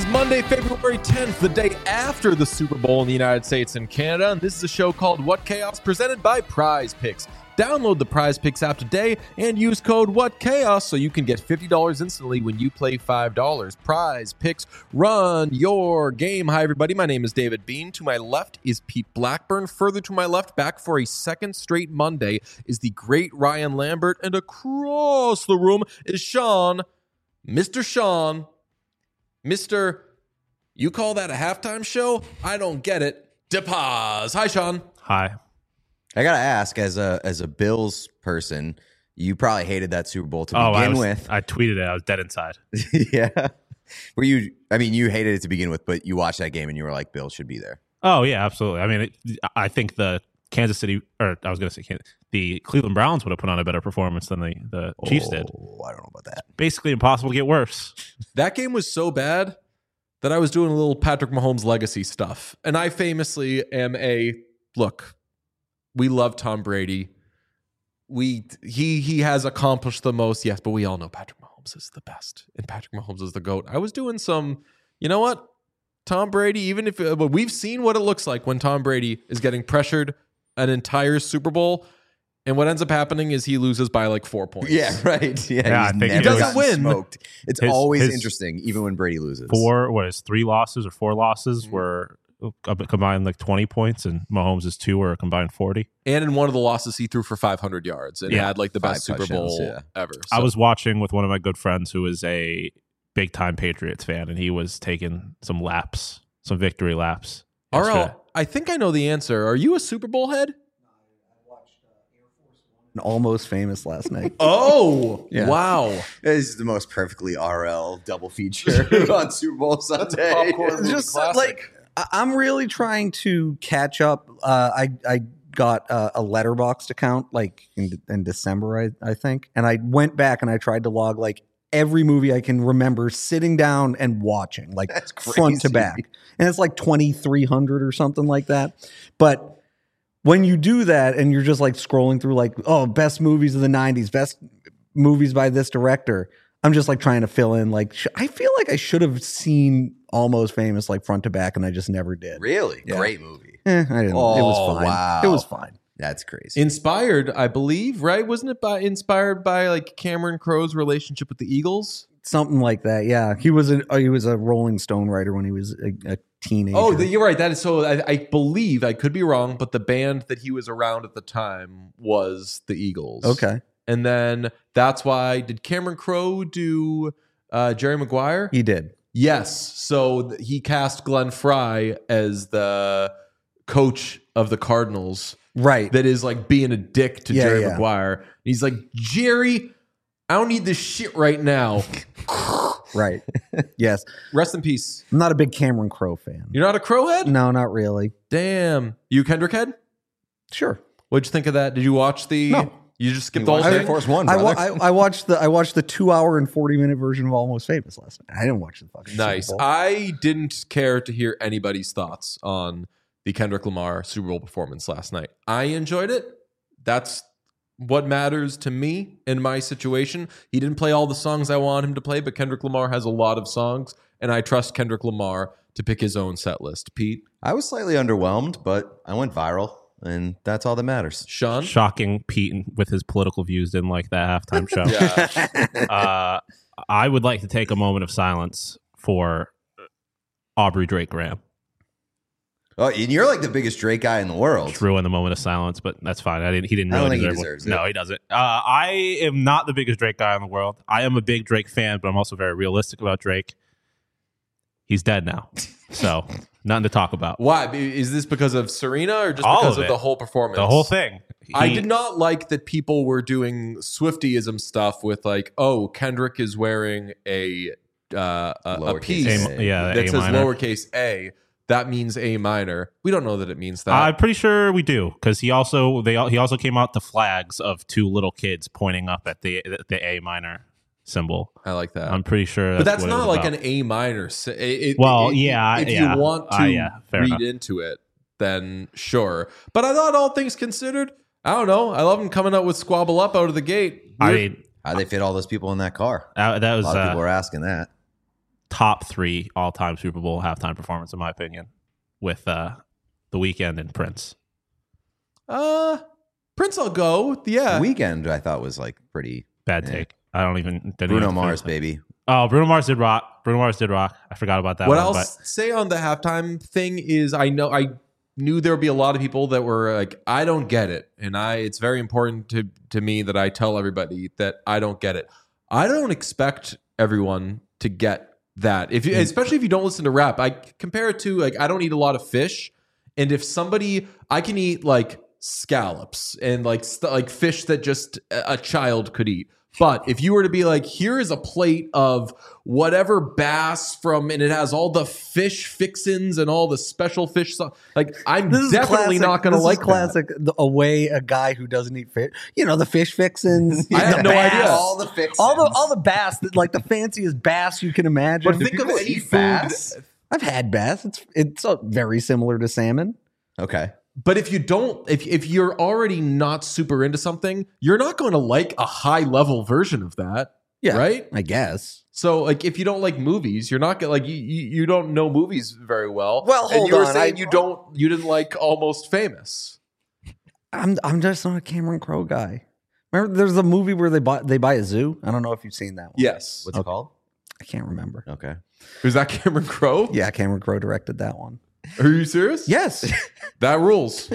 Monday, February 10th, the day after the Super Bowl in the United States and Canada, and this is a show called What Chaos, presented by Prize Picks. Download the Prize Picks app today and use code WhatChaos so you can get $50 instantly when you play $5. Prize Picks, run your game. Hi, everybody. My name is David Bean. To my left is Pete Blackburn. Further to my left, back for a second straight Monday, is the great Ryan Lambert. And across the room is Sean, Mr. Sean, Mr. You call that a halftime show? I don't get it. DePaz. Hi, Sean. Hi. I gotta ask, as a Bills person, you probably hated that Super Bowl to begin with. I tweeted it. I was dead inside. Yeah. Were you? I mean, you hated it to begin with, but you watched that game and you were like, Bills should be there. Oh yeah, absolutely. I mean, I think the Kansas City, or I was going to say the Cleveland Browns would have put on a better performance than the Chiefs did. I don't know about that. Basically impossible to get worse. That game was so bad that I was doing a little Patrick Mahomes legacy stuff. And I famously am look, we love Tom Brady. He has accomplished the most, yes, but we all know Patrick Mahomes is the best. And Patrick Mahomes is the GOAT. I was doing some, you know what? Tom Brady, even if we've seen what it looks like when Tom Brady is getting pressured an entire Super Bowl, and what ends up happening is he loses by like 4 points. Yeah, right. Yeah, I think he doesn't win. Smoked. It's always interesting, even when Brady loses. 3 losses or 4 losses were combined like 20 points, and Mahomes' 2 were a combined 40. And in one of the losses, he threw for 500 yards and had like the best Super Bowl ever. So. I was watching with one of my good friends who is a big-time Patriots fan, and he was taking some victory laps. RL, I think I know the answer. Are you a Super Bowl head? Almost Famous last night. Oh, yeah. Wow. This is the most perfectly RL double feature on Super Bowl Sunday. Just like, I'm really trying to catch up. I got a Letterboxd account like in December, I think. And I went back and I tried to log like every movie I can remember sitting down and watching, like front to back. And it's like 2,300 or something like that. But when you do that and you're just like scrolling through like, oh, best movies of the 90s, best movies by this director, I'm just like trying to fill in. Like, I feel like I should have seen Almost Famous like front to back and I just never did. Really? Yeah. Great movie. I didn't. Oh, it was fine. wow. It was fine. That's crazy. Inspired, I believe, right? Wasn't it inspired by like Cameron Crowe's relationship with the Eagles? Something like that. Yeah. He was a Rolling Stone writer when he was a teenager. Oh, you're right. That is so. I believe, I could be wrong, but the band that he was around at the time was the Eagles. Okay. And then that's why, did Cameron Crowe do Jerry Maguire? He did. Yes. So he cast Glenn Fry as the coach of the Cardinals. Right. That is like being a dick to Jerry yeah. Maguire. He's like, Jerry, I don't need this shit right now. Right. Yes. Rest in peace. I'm not a big Cameron Crowe fan. You're not a Crow head? No, not really. Damn. You Kendrick head? Sure. What'd you think of that? Did you watch the? No. You just skipped the whole Air thing? Force One, I brother. watched the 2 hour and 40-minute version of Almost Famous last night. I didn't watch the fucking Nice. Super Bowl. I didn't care to hear anybody's thoughts on the Kendrick Lamar Super Bowl performance last night. I enjoyed it. That's what matters to me in my situation. He didn't play all the songs I want him to play, but Kendrick Lamar has a lot of songs, and I trust Kendrick Lamar to pick his own set list. Pete? I was slightly underwhelmed, but I went viral, and that's all that matters. Sean? Shocking Pete with his political views didn't like that halftime show. Yeah. I would like to take a moment of silence for Aubrey Drake Graham. Oh, and you're like the biggest Drake guy in the world. True in the moment of silence, but that's fine. He didn't I don't really think he deserve one. deserves it. No, he doesn't. I am not the biggest Drake guy in the world. I am a big Drake fan, but I'm also very realistic about Drake. He's dead now, so nothing to talk about. Why? Is this because of Serena or just All because of of it. the whole performance? The whole thing. I did not like that people were doing Swiftyism stuff with like, oh, Kendrick is wearing a Lowercase piece A. that that A says minor. lowercase a. That means A minor. We don't know that it means that. I'm pretty sure we do because he also came out the flags of 2 little kids pointing up at the A minor symbol. I like that. I'm pretty sure, but that's what it not was like about. an A minor. If yeah. you want to fair read enough. into it, then sure. But I thought all things considered, I don't know. I love him coming out with Squabble Up out of the gate. I mean, How'd they fit all those people in that car? that was A lot of people are asking that. top 3 all-time Super Bowl halftime performance, in my opinion, with The Weeknd and Prince. Prince, I'll go. Yeah. Weekend, I thought was like pretty Bad take. I don't even. Bruno Mars, baby. Oh, Bruno Mars did rock. I forgot about that. What one, I'll but say on the halftime thing is I knew there would be a lot of people that were like, I don't get it. And it's very important to me that I tell everybody that I don't get it. I don't expect everyone to get that. Especially if you don't listen to rap. I compare it to like, I don't eat a lot of fish. And if I can eat like scallops and like fish that just a child could eat. But if you were to be like, here is a plate of whatever bass and it has all the fish fixins and all the special fish stuff, like I'm definitely not going to like classic. A guy who doesn't eat fish, the fish fixins. I have no idea. All the fixins. all the bass, like the fanciest bass you can imagine. But think of any food. bass? I've had bass. It's very similar to salmon. Okay. But if you don't, if you're already not super into something, you're not going to like a high level version of that. Yeah, right. I guess. So, like, if you don't like movies, you're not gonna like you don't know movies very well. Well, hold and you were on, saying you didn't like Almost Famous. I'm just not a Cameron Crowe guy. Remember, there's a movie where they buy a zoo. I don't know if you've seen that one. Yes. What's it called? I can't remember. Okay. Was that Cameron Crowe? Yeah, Cameron Crowe directed that one. Are you serious? Yes. That rules.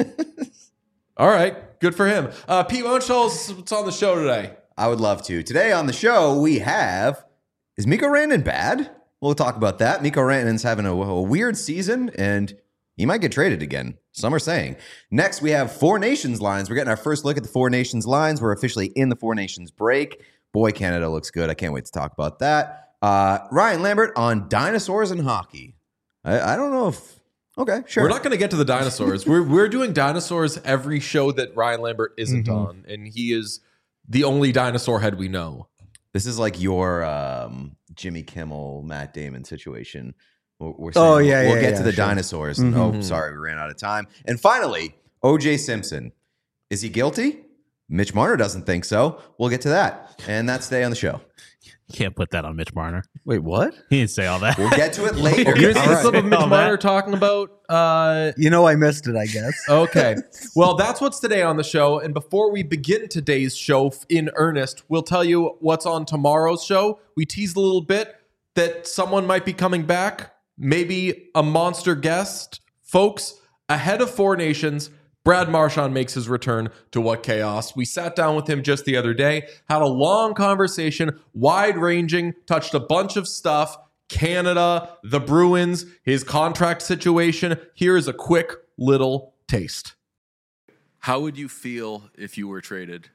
All right. Good for him. Pete, why don't you tell us what's on the show today? I would love to. Today on the show, we have, is Mikko Rantanen bad? We'll talk about that. Mikko Rantanen's having a weird season, and he might get traded again. Some are saying. Next, we have Four Nations lines. We're getting our first look at the Four Nations lines. We're officially in the Four Nations break. Boy, Canada looks good. I can't wait to talk about that. Ryan Lambert on dinosaurs and hockey. I don't know if... Okay, sure. We're not going to get to the dinosaurs. we're doing dinosaurs every show that Ryan Lambert isn't on, and he is the only dinosaur head we know. This is like your Jimmy Kimmel, Matt Damon situation. We'll get to the dinosaurs. Oh, sorry, we ran out of time. And finally, O.J. Simpson. Is he guilty? Mitch Marner doesn't think so. We'll get to that. And that's today on the show. you can't put that on Mitch Marner. Wait, what? He didn't say all that. We'll get to it later. Here's All right. some of Mitch Marner talking about. I missed it, I guess. Okay. Well, that's what's today on the show. And before we begin today's show in earnest, we'll tell you what's on tomorrow's show. We teased a little bit that someone might be coming back, maybe a monster guest. Folks, ahead of Four Nations, Brad Marchand makes his return to What Chaos. We sat down with him just the other day, had a long conversation, wide-ranging, touched a bunch of stuff. Canada, the Bruins, his contract situation. Here is a quick little taste. How would you feel if you were traded?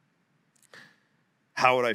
How would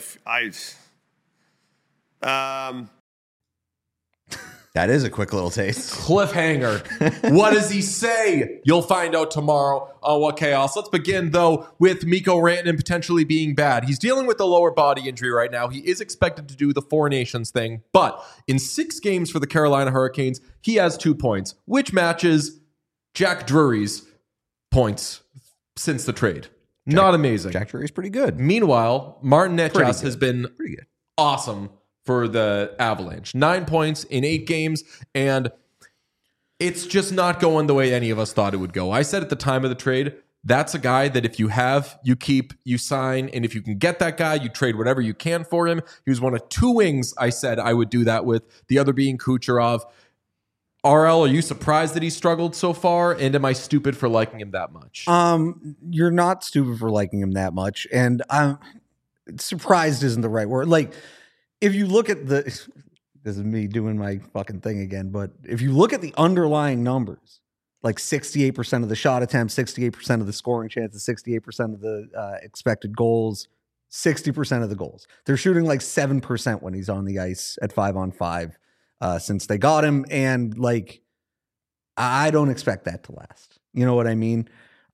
That is a quick little taste. Cliffhanger. What does he say? You'll find out tomorrow on What Chaos. Let's begin, though, with Mikko Rantanen potentially being bad. He's dealing with a lower body injury right now. He is expected to do the Four Nations thing, but in 6 games for the Carolina Hurricanes, he has 2 points, which matches Jack Drury's points since the trade. Not amazing. Jack Drury's pretty good. Meanwhile, Martin Pretty Necas good. has been Pretty good. awesome for the Avalanche. 9 points in 8 games, and it's just not going the way any of us thought it would go. I said at the time of the trade, that's a guy that if you have, you keep, you sign, and if you can get that guy, you trade whatever you can for him. He was one of 2 wings I said I would do that with, the other being Kucherov. RL, are you surprised that he struggled so far? And am I stupid for liking him that much? You're not stupid for liking him that much, and I'm surprised isn't the right word. Like, if you look at this is me doing my fucking thing again, but if you look at the underlying numbers, like 68% of the shot attempts, 68% of the scoring chances, 68% of the expected goals, 60% of the goals. They're shooting like 7% when he's on the ice at 5-on-5 since they got him. And like, I don't expect that to last. You know what I mean?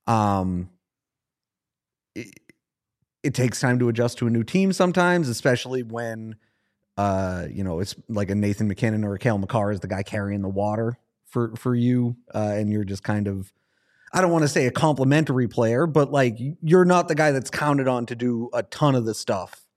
It takes time to adjust to a new team sometimes, especially when it's like a Nathan McKinnon or a Cale Makar is the guy carrying the water for you, and you're just kind of, I don't want to say a complimentary player, but like you're not the guy that's counted on to do a ton of the stuff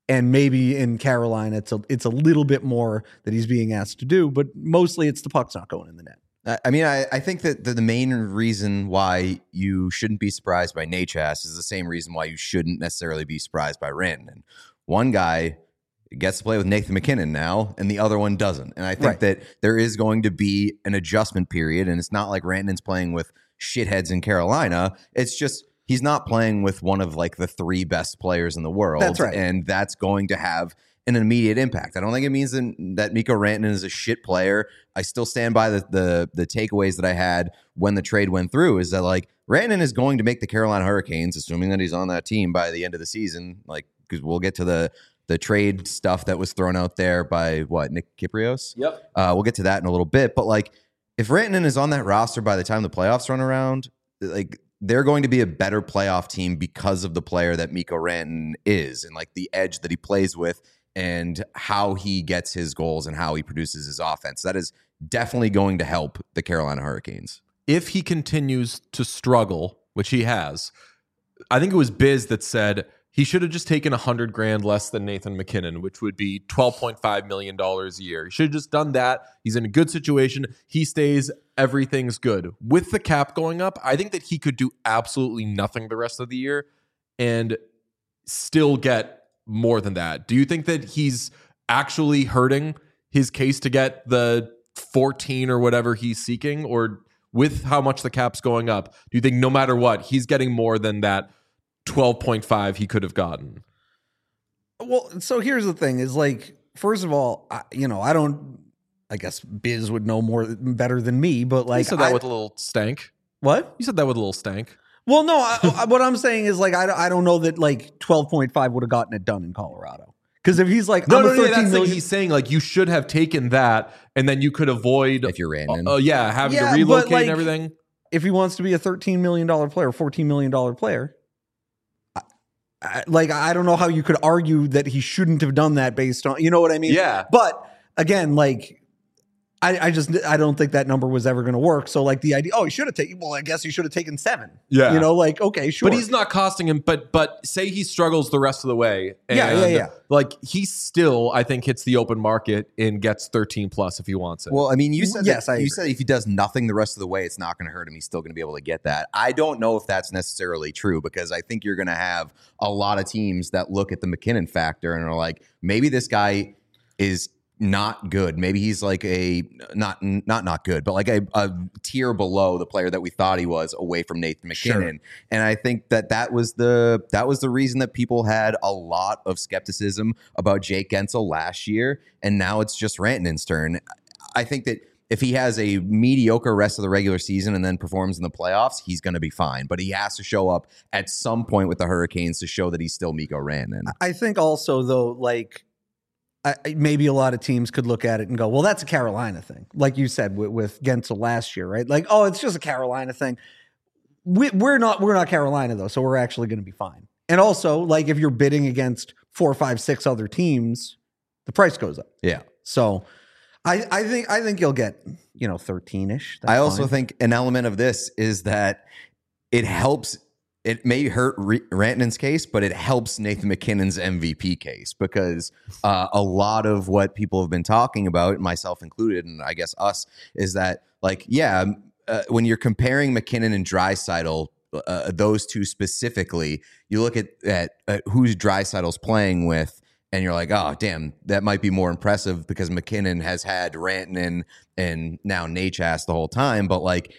And maybe in Carolina, it's a little bit more that he's being asked to do, but mostly it's the puck's not going in the net. I mean, I think that the main reason why you shouldn't be surprised by Nachas is the same reason why you shouldn't necessarily be surprised by Rantanen. One guy gets to play with Nathan MacKinnon now, and the other one doesn't. And I think that there is going to be an adjustment period, and it's not like Rantanen's playing with shitheads in Carolina. It's just he's not playing with one of like the 3 best players in the world. That's right. And that's going to have an immediate impact. I don't think it means that Mikko Rantanen is a shit player. I still stand by the takeaways that I had when the trade went through, is that like Rantanen is going to make the Carolina Hurricanes, assuming that he's on that team by the end of the season, like, because we'll get to the trade stuff that was thrown out there by Nick Kypreos. Yep. We'll get to that in a little bit. But like, if Rantanen is on that roster by the time the playoffs run around, like, they're going to be a better playoff team because of the player that Mikko Rantanen is, and like the edge that he plays with, and how he gets his goals and how he produces his offense. That is definitely going to help the Carolina Hurricanes. If he continues to struggle, which he has, I think it was Biz that said he should have just taken $100,000 less than Nathan MacKinnon, which would be $12.5 million a year. He should have just done that. He's in a good situation. He stays. Everything's good. With the cap going up, I think that he could do absolutely nothing the rest of the year and still get more than that. Do you think that he's actually hurting his case to get the 14 or whatever he's seeking? Or with how much the cap's going up, do you think no matter what, he's getting more than that 12.5 he could have gotten? Well, so here's the thing is like, first of all, I guess Biz would know better than me, but like, You said that with a little stank. What? You said that with a little stank. Well, no, what I'm saying is like, I don't know that like 12.5 would have gotten it done in Colorado. Because if he's like, No, I'm a 13 that's million, like he's saying like you should have taken that, and then you could avoid If you're Rantanen. having Yeah, to relocate but, like, and everything. if he wants to be a $13 million player, $14 million player, I don't know how you could argue that he shouldn't have done that based on, you know what I mean? Yeah. But again, like, I don't think that number was ever going to work. So like the idea, he should have taken, well, I guess he should have taken 7. Yeah. You know, like, okay, sure. But he's not costing him. But say he struggles the rest of the way. And Yeah. Like he still, I think, hits the open market and gets 13 plus if he wants it. Well, I mean, you said Yes, I you agree. said if he does nothing the rest of the way, it's not going to hurt him. He's still going to be able to get that. I don't know if that's necessarily true, because I think you're going to have a lot of teams that look at the MacKinnon factor and are like, maybe this guy is not good. Maybe he's like a not good, but like a tier below the player that we thought he was, away from Nathan MacKinnon. Sure. And I think that was the reason that people had a lot of skepticism about Jake Gensel last year, and now it's just Rantanen's turn. I think that if he has a mediocre rest of the regular season and then performs in the playoffs, he's going to be fine. But he has to show up at some point with the Hurricanes to show that he's still Mikko Rantanen. I think also though, like, maybe a lot of teams could look at it and go, well, that's a Carolina thing. Like you said with Gensel last year, right? Like, oh, it's just a Carolina thing. We're not Carolina though. So we're actually going to be fine. And also, like, if you're bidding against 4, 5, 6 other teams, the price goes up. Yeah. So I think you'll get, 13-ish. That's I also fine. think an element of this is that it helps. It may hurt Rantanen's case, but it helps Nathan MacKinnon's MVP case, because a lot of what people have been talking about, myself included, and I guess us, is that like, when you're comparing MacKinnon and Draisaitl, those two specifically, you look at who's Draisaitl's playing with, and you're like, oh, damn, that might be more impressive because MacKinnon has had Rantanen and now Nachas the whole time. But like,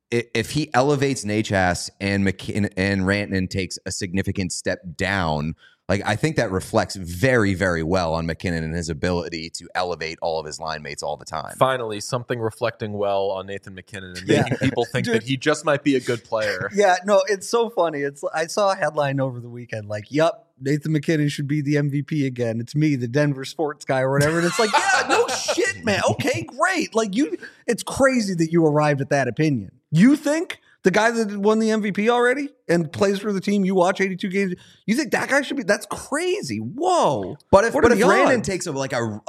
if he elevates Nachas and MacKinnon and Rantanen takes a significant step down, like, I think that reflects very, very well on MacKinnon and his ability to elevate all of his line mates all the time. Finally, something reflecting well on Nathan MacKinnon and making people think that he just might be a good player. Yeah, no, it's so funny. I saw a headline over the weekend like, "Yep, Nathan MacKinnon should be the MVP again. It's me, the Denver sports guy or whatever." And it's like, yeah, no shit, man. Okay, great. Like, it's crazy that you arrived at that opinion. You think the guy that won the MVP already and plays for the team you watch 82 games, you think that guy should be? That's crazy. Whoa. But if What are the Rantanen odds? takes a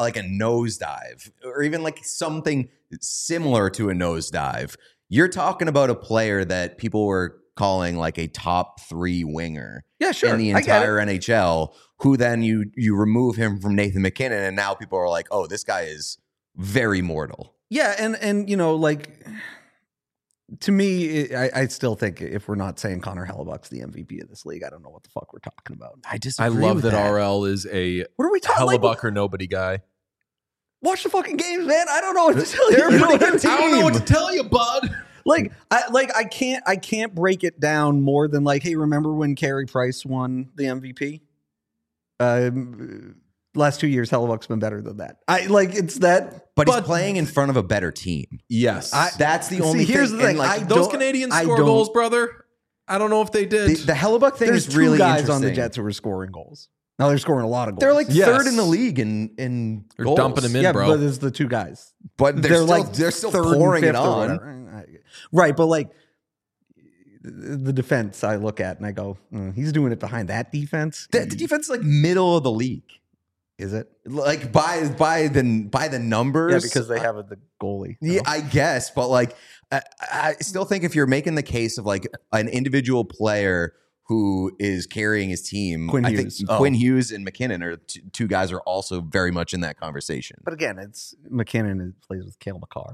nosedive, or even like something similar to a nosedive, you're talking about a player that people were calling like a top 3 winger Yeah, sure. in the I get it. entire NHL, who then you remove him from Nathan McKinnon, and now people are like, oh, this guy is very mortal. Yeah, and like to me, I still think if we're not saying Connor Hellebuck's the MVP of this league, I don't know what the fuck we're talking about. I love that RL is a What are we talking Hellebuck like? or nobody guy. Watch the fucking games, man. I don't know what to tell you. They're a You know pretty what I good mean? I don't know what to tell you, bud. I can't break it down more than like, hey, remember when Carey Price won the MVP? Last 2 years, Hellebuck's been better than that. It's that. But he's playing in front of a better team. Yes. That's the only thing. Here's the thing. And, like, Those Canadians score goals, brother. I don't know if they did. the Hellebuck thing There's is two really guys interesting. on the Jets who are scoring goals. Now they're scoring a lot of goals. They're like Yes. third in the league in They're goals. dumping him in, yeah, bro. but it's the two guys. But they're still third and pouring it fifth or on. whatever. Right, but like the defense, I look at and I go, he's doing it behind that defense. The defense is like middle of the league. Is it? Like by the numbers. Yeah, because they have the goalie. Yeah, I guess, but like I still think if you're making the case of like an individual player who is carrying his team, Quinn I Hughes. think Quinn Hughes and McKinnon are two guys are also very much in that conversation. But again, it's McKinnon who plays with Cale Makar.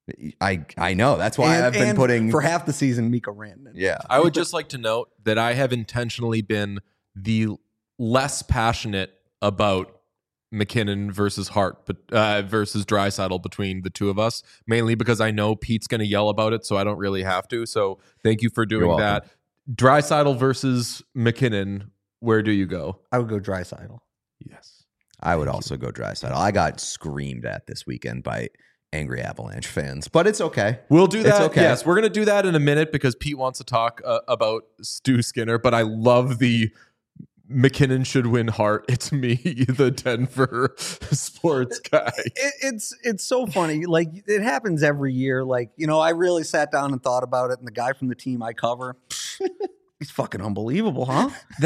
I know. That's why I've been putting for half the season Mikko Rantanen. Yeah. I would just like to note that I have intentionally been the less passionate about McKinnon versus Hart, but versus Draisaitl between the two of us, mainly because I know Pete's going to yell about it, so I don't really have to. So thank you for doing that. Draisaitl versus McKinnon, where do you go? I would go Draisaitl. Yes. I would also go Draisaitl. I got screamed at this weekend by angry Avalanche fans, but it's okay. We'll do that. It's okay. Yes, we're going to do that in a minute because Pete wants to talk about Stu Skinner, but I love the McKinnon should win Hart. It's me, the Denver sports guy. It's so funny. Like it happens every year. Like, I really sat down and thought about it, and the guy from the team I cover, he's fucking unbelievable, huh?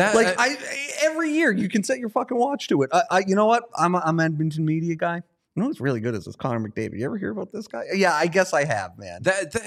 Every year you can set your fucking watch to it. You know what? I'm an Edmonton media guy. You know what's really good is this Connor McDavid. You ever hear about this guy? Yeah, I guess I have, man.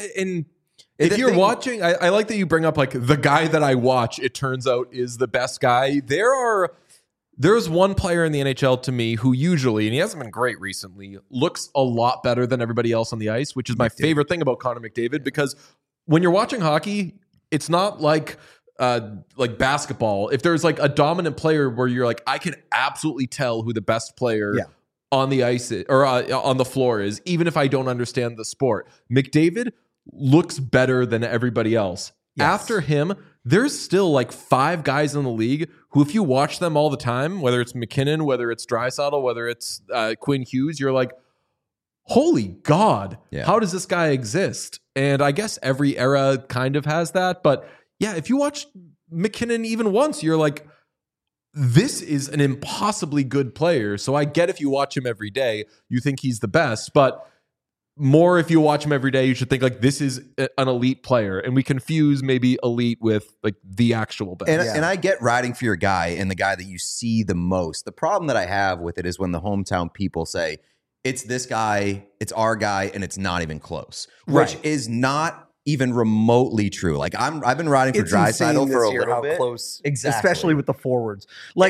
If you're watching, I like that you bring up like the guy that I watch, it turns out is the best guy. There's one player in the NHL to me who usually, and he hasn't been great recently, looks a lot better than everybody else on the ice, which is my favorite thing about Connor McDavid, because when you're watching hockey, it's not like basketball. If there's like a dominant player where you're like, I can absolutely tell who the best player on the ice is, or on the floor is, even if I don't understand the sport. McDavid looks better than everybody else. Yes. After him, there's still like 5 guys in the league who, if you watch them all the time, whether it's McKinnon, whether it's Draisaitl, whether it's Quinn Hughes, you're like, holy God, how does this guy exist? And I guess every era kind of has that. But yeah, if you watch McKinnon even once, you're like, this is an impossibly good player. So I get if you watch him every day, you think he's the best, but more if you watch him every day, you should think like this is an elite player. And we confuse maybe elite with like the actual best. And I get riding for your guy and the guy that you see the most. The problem that I have with it is when the hometown people say, it's this guy, it's our guy, and it's not even close, which is not even remotely true. Like I've been riding for Draisaitl for a little bit. Close, exactly, especially with the forwards.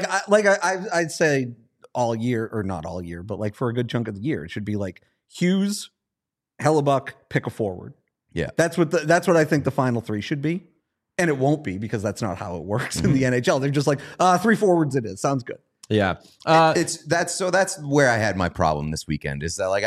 I'd say all year, or not all year, but like for a good chunk of the year, it should be like Hughes, Hellebuck, pick a forward. Yeah, that's what I think the final 3 should be, and it won't be because that's not how it works in the NHL. They're just like 3 forwards. It is sounds good. Yeah, that's where I had my problem this weekend. Is that like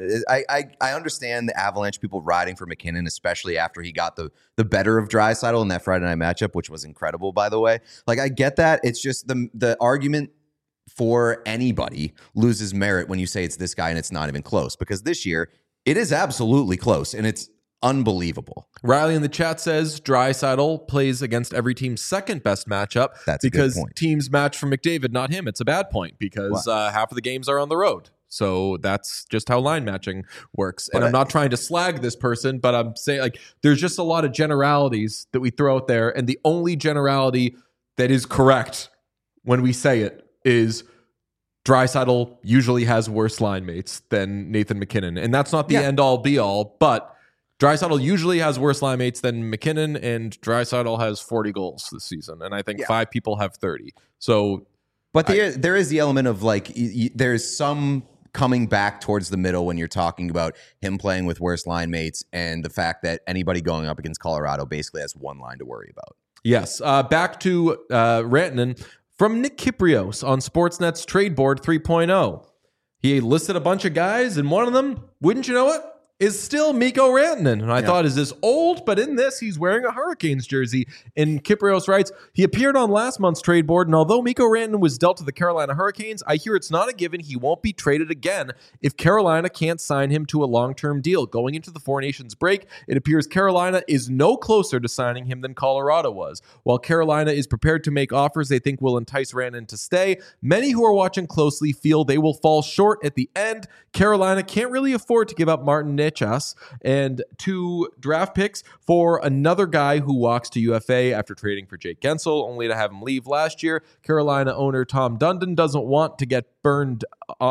I understand the Avalanche people riding for McKinnon, especially after he got the better of Draisaitl in that Friday night matchup, which was incredible, by the way. Like I get that. It's just the argument for anybody loses merit when you say it's this guy and it's not even close, because this year it is absolutely close and it's unbelievable. Riley in the chat says Draisaitl plays against every team's second best matchup. That's because a good point. Teams match for McDavid, not him. It's a bad point because half of the games are on the road. So that's just how line matching works. And I'm not trying to slag this person, but I'm saying like there's just a lot of generalities that we throw out there. And the only generality that is correct when we say it is Draisaitl usually has worse line mates than Nathan McKinnon. And that's not the end all be all, but Draisaitl usually has worse line mates than McKinnon, and Draisaitl has 40 goals this season, and I think 5 people have 30. So, but there is the element of like there's some coming back towards the middle when you're talking about him playing with worse line mates and the fact that anybody going up against Colorado basically has one line to worry about. Yes. Back to Rantanen from Nick Kyprios on Sportsnet's Trade Board 3.0. He listed a bunch of guys, and one of them, wouldn't you know it, is still Mikko Rantanen. And I thought, is this old? But in this, he's wearing a Hurricanes jersey. And Kyprios writes, he appeared on last month's trade board, and although Mikko Rantanen was dealt to the Carolina Hurricanes, I hear it's not a given he won't be traded again if Carolina can't sign him to a long-term deal. Going into the Four Nations break, it appears Carolina is no closer to signing him than Colorado was. While Carolina is prepared to make offers they think will entice Rantanen to stay, many who are watching closely feel they will fall short at the end. Carolina can't really afford to give up Martin Necas and 2 draft picks for another guy who walks to UFA after trading for Jake Gensel, only to have him leave last year. Carolina owner Tom Dundon doesn't want to get burned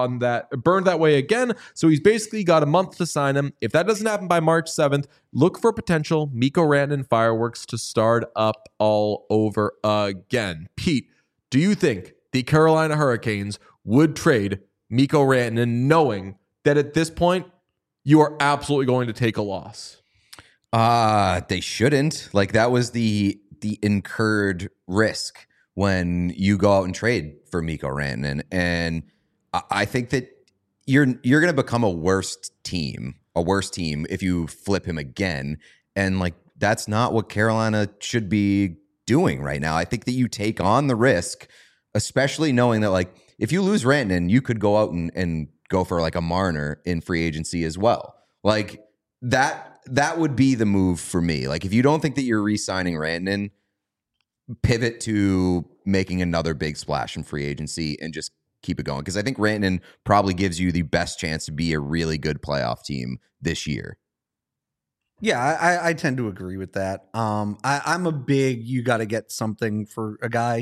that way again, so he's basically got a month to sign him. If that doesn't happen by March 7th, look for potential Mikko Rantanen fireworks to start up all over again. Pete, do you think the Carolina Hurricanes would trade Mikko Rantanen knowing that at this point you are absolutely going to take a loss? They shouldn't. Like, that was the incurred risk when you go out and trade for Mikko Rantanen. And I think that you're going to become a worse team if you flip him again. And like, that's not what Carolina should be doing right now. I think that you take on the risk, especially knowing that like, if you lose Rantanen, you could go out and go for like a Marner in free agency as well. Like that would be the move for me. Like, if you don't think that you're re-signing Rantanen, pivot to making another big splash in free agency and just keep it going. Because I think Rantanen probably gives you the best chance to be a really good playoff team this year. Yeah, I tend to agree with that. I'm a big, you got to get something for a guy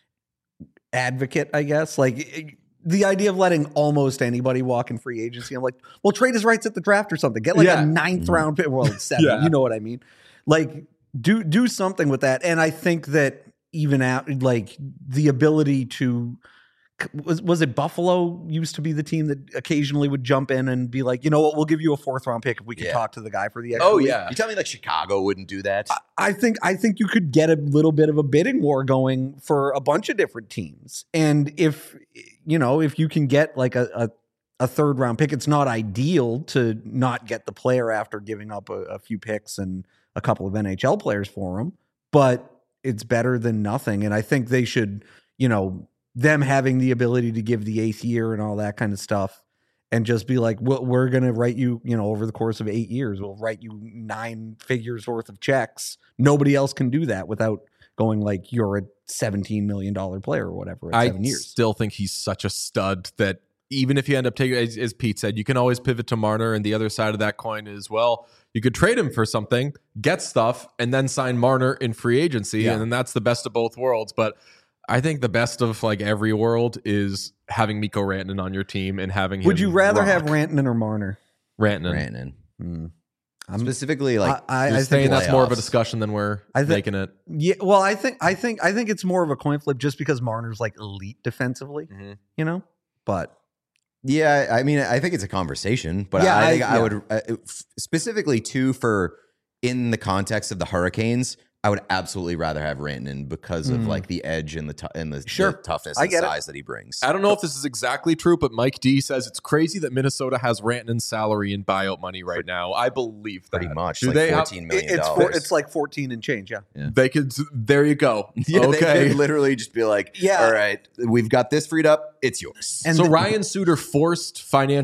advocate, I guess. Like, the idea of letting almost anybody walk in free agency, I'm like, well, trade his rights at the draft or something. Get like a 9th round pick. Well, 7, you know what I mean? Like, do something with that. And I think that even out, like, the ability to, was it Buffalo used to be the team that occasionally would jump in and be like, you know what, we'll give you a 4th round pick if we could talk to the guy for the extra week. You tell me like Chicago wouldn't do that? I think you could get a little bit of a bidding war going for a bunch of different teams. And if you can get like a 3rd round pick, it's not ideal to not get the player after giving up a few picks and a couple of NHL players for him, but it's better than nothing. And I think they should, them having the ability to give the 8th year and all that kind of stuff and just be like, well, we're going to write you, over the course of 8 years, we'll write you 9 figures worth of checks. Nobody else can do that without going like, you're a $17 million player or whatever at 7 years. I still think he's such a stud that even if you end up taking, as Pete said, you can always pivot to Marner, and the other side of that coin is, well, you could trade him for something, get stuff, and then sign Marner in free agency, and then that's the best of both worlds. But I think the best of like every world is having Mikko Rantanen on your team and having him. Would you rather rock. have Rantanen or Marner? Rantanen. Specifically, like, I think that's more of a discussion than we're making it. Yeah, well, I think it's more of a coin flip just because Marner's like elite defensively, But yeah, I mean, I think it's a conversation, but I think I would specifically too for in the context of the Hurricanes, I would absolutely rather have Rantanen because of like the edge and the toughness and size that he brings. I don't know if this is exactly true, but Mike D says it's crazy that Minnesota has Rantanen's salary and buyout money right now. I believe that. Pretty much. Do like they $14 million. It's like 14 and change, yeah. They could, there you go. Yeah, okay. They could literally just be like, all right, we've got this freed up. It's yours. And so Ryan Suter forced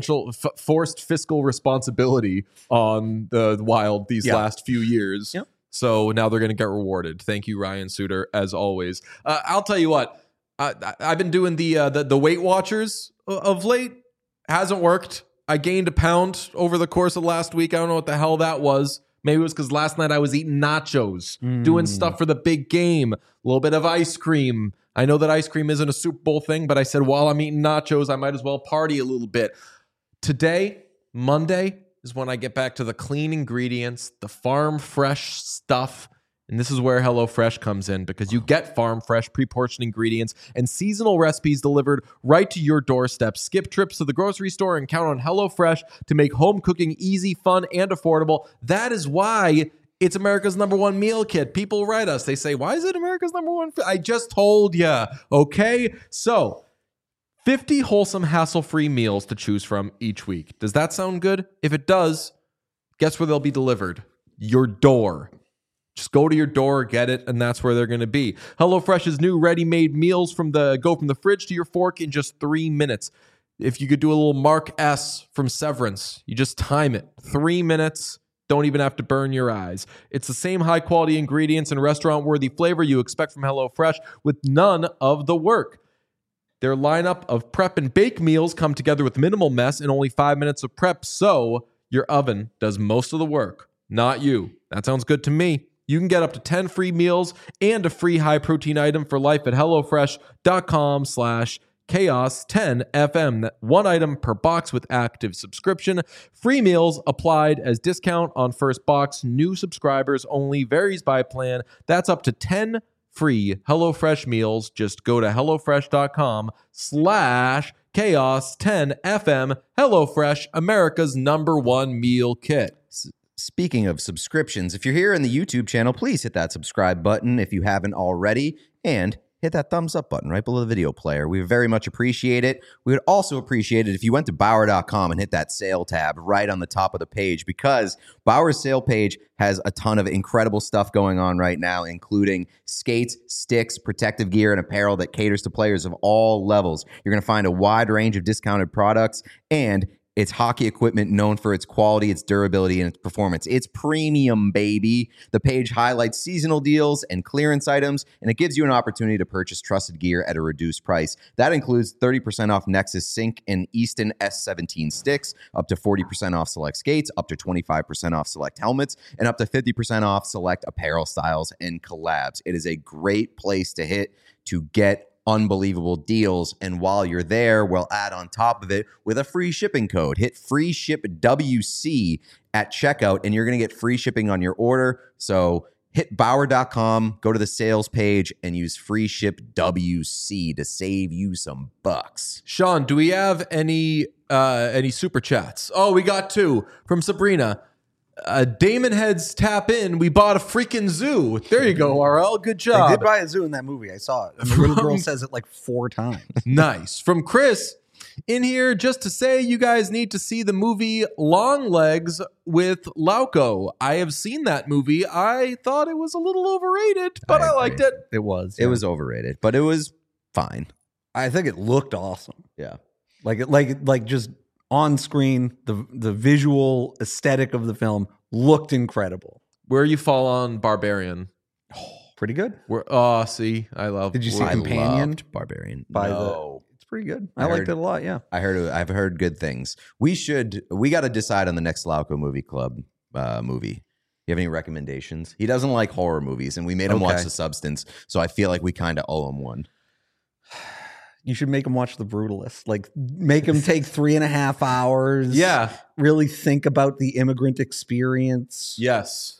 fiscal responsibility on the Wild these last few years. Yep. So now they're going to get rewarded. Thank you, Ryan Suter, as always. I'll tell you what. I've been doing the Weight Watchers of late. Hasn't worked. I gained a pound over the course of last week. I don't know what the hell that was. Maybe it was because last night I was eating nachos, doing stuff for the big game, a little bit of ice cream. I know that ice cream isn't a Super Bowl thing, but I said while I'm eating nachos, I might as well party a little bit. Today, Monday, is when I get back to the clean ingredients, the farm fresh stuff. And this is where HelloFresh comes in, because you get farm fresh pre-portioned ingredients and seasonal recipes delivered right to your doorstep. Skip trips to the grocery store and count on HelloFresh to make home cooking easy, fun, and affordable. That is why it's America's #1 meal kit. People write us. They say, why is it America's #1? I just told you. Okay? So 50 wholesome, hassle-free meals to choose from each week. Does that sound good? If it does, guess where they'll be delivered? Your door. Just go to your door, get it, and that's where they're going to be. HelloFresh's new ready-made meals go from the fridge to your fork in just 3 minutes. If you could do a little Mark S. from Severance, you just time it. 3 minutes, don't even have to burn your eyes. It's the same high-quality ingredients and restaurant-worthy flavor you expect from HelloFresh with none of the work. Their lineup of prep and bake meals come together with minimal mess and only 5 minutes of prep, so your oven does most of the work, not you. That sounds good to me. You can get up to 10 free meals and a free high-protein item for life at HelloFresh.com/chaos10FM. One item per box with active subscription. Free meals applied as discount on first box. New subscribers only. Varies by plan. That's up to 10 free HelloFresh meals. Just go to HelloFresh.com/chaos10FM. HelloFresh, America's #1 meal kit. Speaking of subscriptions, if you're here in the YouTube channel, please hit that subscribe button if you haven't already, and hit that thumbs up button right below the video player. We very much appreciate it. We would also appreciate it if you went to Bauer.com and hit that sale tab right on the top of the page, because Bauer's sale page has a ton of incredible stuff going on right now, including skates, sticks, protective gear, and apparel that caters to players of all levels. You're going to find a wide range of discounted products, and it's hockey equipment known for its quality, its durability, and its performance. It's premium, baby. The page highlights seasonal deals and clearance items, and it gives you an opportunity to purchase trusted gear at a reduced price. That includes 30% off Nexus Sync and Easton S17 sticks, up to 40% off select skates, up to 25% off select helmets, and up to 50% off select apparel styles and collabs. It is a great place to hit to get unbelievable deals, and while you're there, we'll add on top of it with a free shipping code. Hit free ship WC at checkout, and you're going to get free shipping on your order. So hit Bauer.com, go to the sales page, and use free ship WC to save you some bucks. Sean, do we have any super chats? Oh, we got 2 from Sabrina. Damon Heads tap in. We bought a freaking zoo. There you go, RL. Good job. They did buy a zoo in that movie. I saw it. And the little girl says it like 4 times. Nice. From Chris in here, just to say you guys need to see the movie Long Legs with Lauco. I have seen that movie. I thought it was a little overrated, but I liked it. It was. It was overrated, but it was fine. I think it looked awesome. Yeah. Like just on screen, the visual aesthetic of the film looked incredible. Where you fall on Barbarian? Pretty good. See, I love. Did you see I Companion? loved Barbarian. It's pretty good. I liked it a lot. Yeah, I've heard good things. We got to decide on the next Lauco Movie Club movie. You have any recommendations? He doesn't like horror movies, and we made him watch The Substance, so I feel like we kind of owe him one. You should make him watch The Brutalist. Like, make him take 3.5 hours. Yeah. Really think about the immigrant experience. Yes.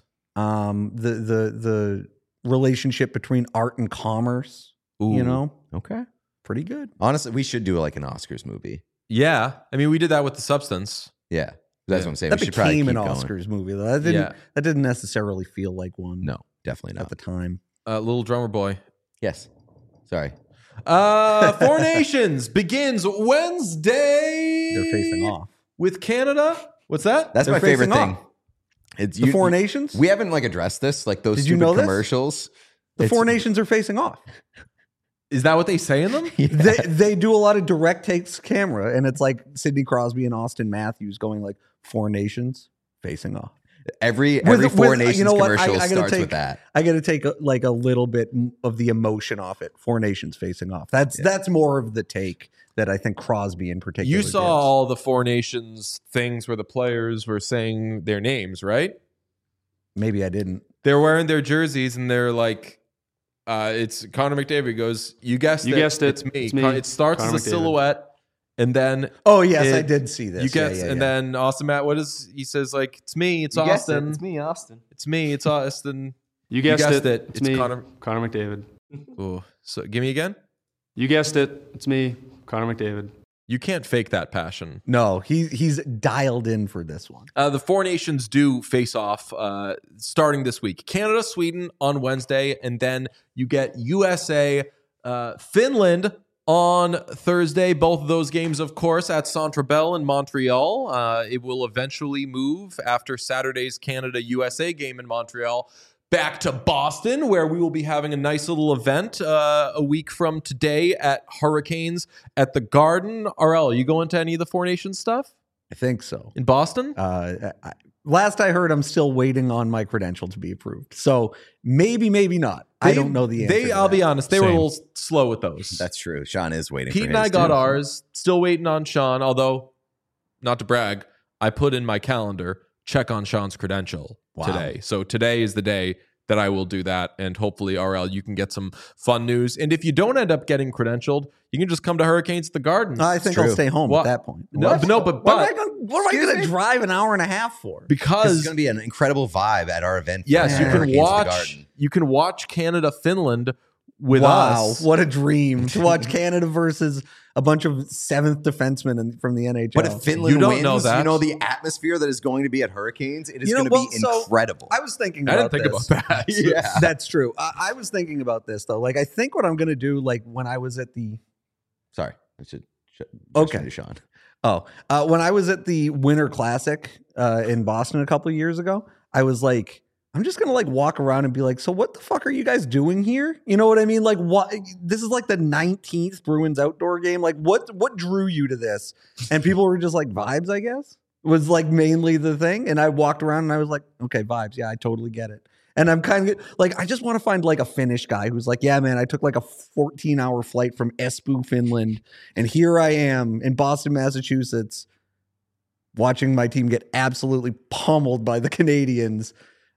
The relationship between art and commerce. Ooh. You know? Okay. Pretty good. Honestly, we should do like an Oscars movie. Yeah. I mean, we did that with The Substance. Yeah. That's what I'm saying. That we should probably became keep an going. Oscars movie, though. That didn't necessarily feel like one. No, definitely not. At the time. Little Drummer Boy. Yes. Sorry. Four Nations begins Wednesday. They're facing off with Canada. What's that? That's They're my favorite facing thing. off. It's the Four Nations. We haven't like addressed this, like those Did you stupid know this? commercials. The Four Nations are facing off. Is that what they say in them? They do a lot of direct takes camera, and it's like Sidney Crosby and Austin Matthews going like Four Nations facing off. Every Four Nations commercial starts with that. I got to take a little bit of the emotion off it. Four Nations facing off. That's more of the take that I think Crosby in particular. You saw all the Four Nations things where the players were saying their names, right? Maybe I didn't. They're wearing their jerseys and they're like, it's Connor McDavid goes, you guessed it. You guessed it. It's me. It's me. It starts Connor as a McDavid. silhouette and then Oh yes, It- I did see this. you get, Yeah, and then Austin Matt, what is he says like? It's me, it's You guessed it. Austin, It's me, Austin. it's me, it's Austin. You guessed, guessed it. it. It's It's me, Connor. Connor McDavid. Ooh, so give me again. You guessed it. It's me, Connor McDavid. You can't fake that passion. no, he's dialed in for this one. The four nations do face off starting this week. Canada, Sweden on Wednesday, and then you get USA, Finland on Thursday. Both of those games, of course, at Centre Bell in Montreal. It will eventually move after Saturday's Canada-USA game in Montreal back to Boston, where we will be having a nice little event a week from today at Hurricanes at the Garden. RL, you going to any of the Four Nations stuff I think so. in Boston? Last I heard, I'm still waiting on my credential to be approved. So maybe not. I don't know the answer. I'll be honest, they were a Same. little slow with those. That's true. Sean is waiting. Pete for and I his got too. ours. Still waiting on Sean, although, not to brag, I put in my calendar, check on Sean's credential today. So today is the day that I will do that. And hopefully, RL, you can get some fun news. And if you don't end up getting credentialed, you can just come to Hurricanes at the Garden. I think I'll true. stay home What? at that point. No, but What am I Excuse going to me? drive an hour and a half for? This is because going to be an incredible vibe at our event. for yes, you the can Hurricanes of the watch. Garden. You can watch Canada Finland with Wow, us. what a dream to watch Canada versus a bunch of seventh defensemen from the NHL. But if Finland You don't wins, know that. you know the atmosphere that is going to be at Hurricanes. It is You know, going to be well, so incredible. I was thinking I about didn't think this. about that. Yeah. That's true. I was thinking about this though. Like, I think what I'm going to do, like when I was at the Sorry, I should. Okay. Sean. when I was at the Winter Classic in Boston a couple of years ago, I was like, I'm just gonna like walk around and be like, so what the fuck are you guys doing here? You know what I mean? Like, what? This is like the 19th Bruins outdoor game. Like, what drew you to this? And people were just like, vibes, I guess, was like mainly the thing. And I walked around and I was like, okay, vibes. Yeah, I totally get it. And I'm kind of like, I just want to find like a Finnish guy who's like, yeah, man, I took like a 14-hour flight from Espoo, Finland, and here I am in Boston, Massachusetts, watching my team get absolutely pummeled by the Canadians.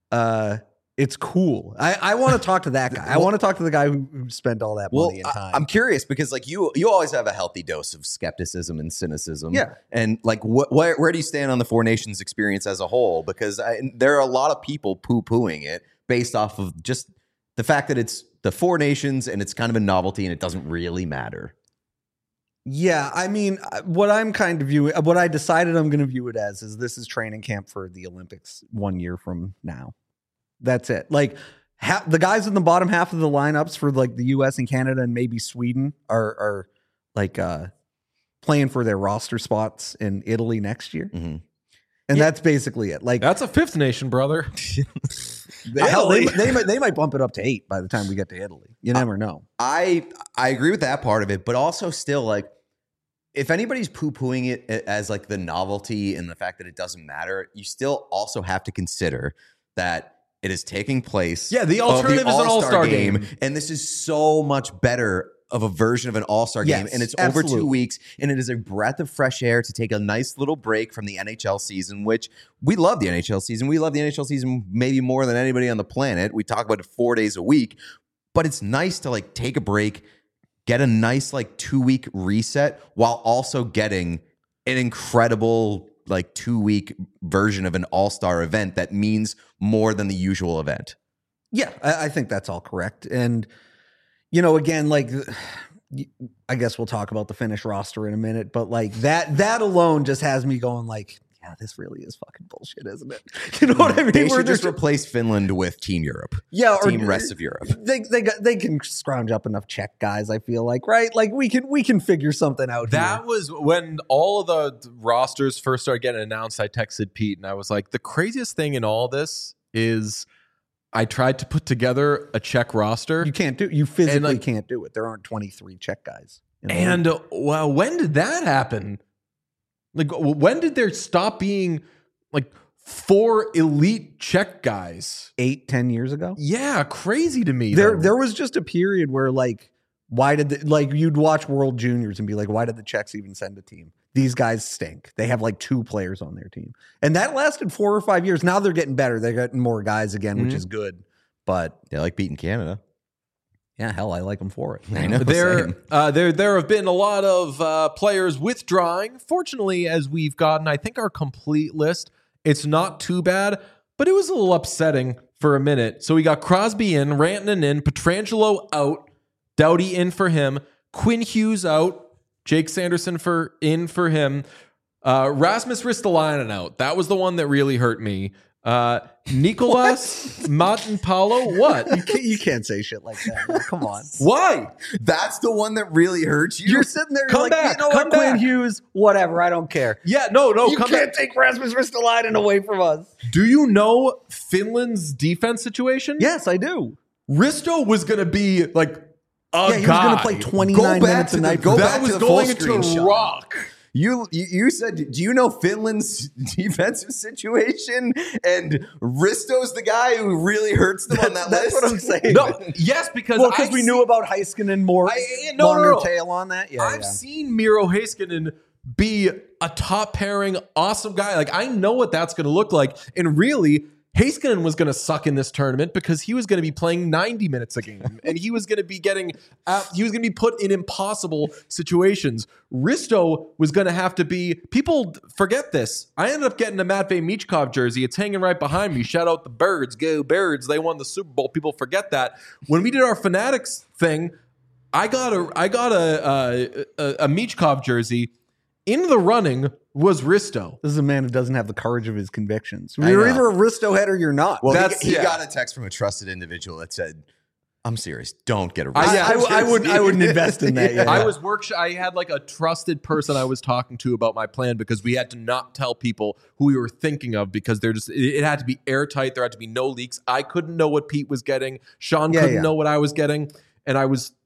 It's cool. I want to talk to that guy. I want to talk to the guy who spent all that Well, money and time. I'm curious because like you always have a healthy dose of skepticism and cynicism. Yeah. And like, where do you stand on the Four Nations experience as a whole? Because there are a lot of people poo-pooing it based off of just the fact that it's the Four Nations and it's kind of a novelty and it doesn't really matter. Yeah, I mean, what I'm kind of viewing, what I decided I'm going to view it as is this is training camp for the Olympics 1 year from now. That's it. Like the guys in the bottom half of the lineups for like the US and Canada and maybe Sweden are like playing for their roster spots in Italy next year. Mm-hmm. And that's basically it. Like That's a fifth nation, brother. hell, they might bump it up to 8 by the time we get to Italy. You never know. I agree with that part of it, but also still like if anybody's poo-pooing it as like the novelty and the fact that it doesn't matter, you still also have to consider that it is taking place. Yeah, the of alternative is an all-star game. and this is so much better of a version of an all-star game, Yes, and it's over 2 absolutely. weeks, and it is a breath of fresh air to take a nice little break from the NHL season, which we love the NHL season. We love the NHL season maybe more than anybody on the planet. We talk about it 4 days a week, but it's nice to like take a break, get a nice like 2-week reset while also getting an incredible like 2-week version of an all-star event that means more than the usual event. Yeah, I think that's all correct. And, you know, again, like, I guess we'll talk about the Finnish roster in a minute, but like that alone just has me going like, yeah, this really is fucking bullshit, isn't it? You know what I mean? They Where should just there's- replace Finland with Team Europe. yeah, or Team rest of Europe. They can scrounge up enough Czech guys, I feel like, right? Like we can figure something out That here. was when all of the rosters first started getting announced. I texted Pete and I was like, the craziest thing in all this is I tried to put together a Czech roster. You physically like- can't do it. There aren't 23 Czech guys. in the league. And well, when did that happen? Like, when did there stop being like 4 elite Czech guys? 8-10 years ago. Yeah, crazy to me. There though. was just a period where like, why did like you'd watch World Juniors and be like, why did the Czechs even send a team? These guys stink. They have like 2 players on their team, and that lasted 4 or 5 years. Now they're getting better. They're getting more guys again, which is good. But They like beating Canada. Yeah, hell, I like him for it. I know. There, same. there have been a lot of players withdrawing. Fortunately, as we've gotten, I think, our complete list, it's not too bad, but it was a little upsetting for a minute. So we got Crosby in, Rantanen in, Pietrangelo out, Doughty in for him, Quinn Hughes out, Jake Sanderson in for him, Rasmus Ristolainen out. That was the one that really hurt me. Nicolas Matenpalo, what? You can't say shit like that. Man. Come on. Why? That's the one that really hurts you. You're sitting there Come like, back, you know come what, Quinn back. Hughes, whatever, I don't care. Yeah, no, You come can't back. take Rasmus Ristolainen away from us. Do you know Finland's defense situation? Yes, I do. Risto was going to be like a Yeah, he was guy. going to play 29 minutes a night. go that back was to the full going screen to shot. rock. You said, do you know Finland's defensive situation? And Risto's the guy who really hurts them on that That's list. what I'm saying. No, yes, because Well, because we knew about Heiskanen more no, longer no. tail on that. Yeah, I've yeah. seen Miro Heiskanen be a top pairing, awesome guy. Like, I know what that's going to look like. And really, Heiskanen was going to suck in this tournament because he was going to be playing 90 minutes a game and he was going to be put in impossible situations. Risto was going to have to be, people forget this. I ended up getting a Matvei Michkov jersey. It's hanging right behind me. Shout out the Birds. Go Birds. They won the Super Bowl. People forget that. When we did our Fanatics thing, I got a Michkov jersey. In the running was Risto. This is a man who doesn't have the courage of his convictions. I You're know. either a Risto head or you're not. Well, That's- he yeah. got a text from a trusted individual that said, I'm serious. Don't get a I wouldn't invest in that yet. I had like a trusted person I was talking to about my plan because we had to not tell people who we were thinking of because it had to be airtight. There had to be no leaks. I couldn't know what Pete was getting. Sean couldn't know what I was getting. And it was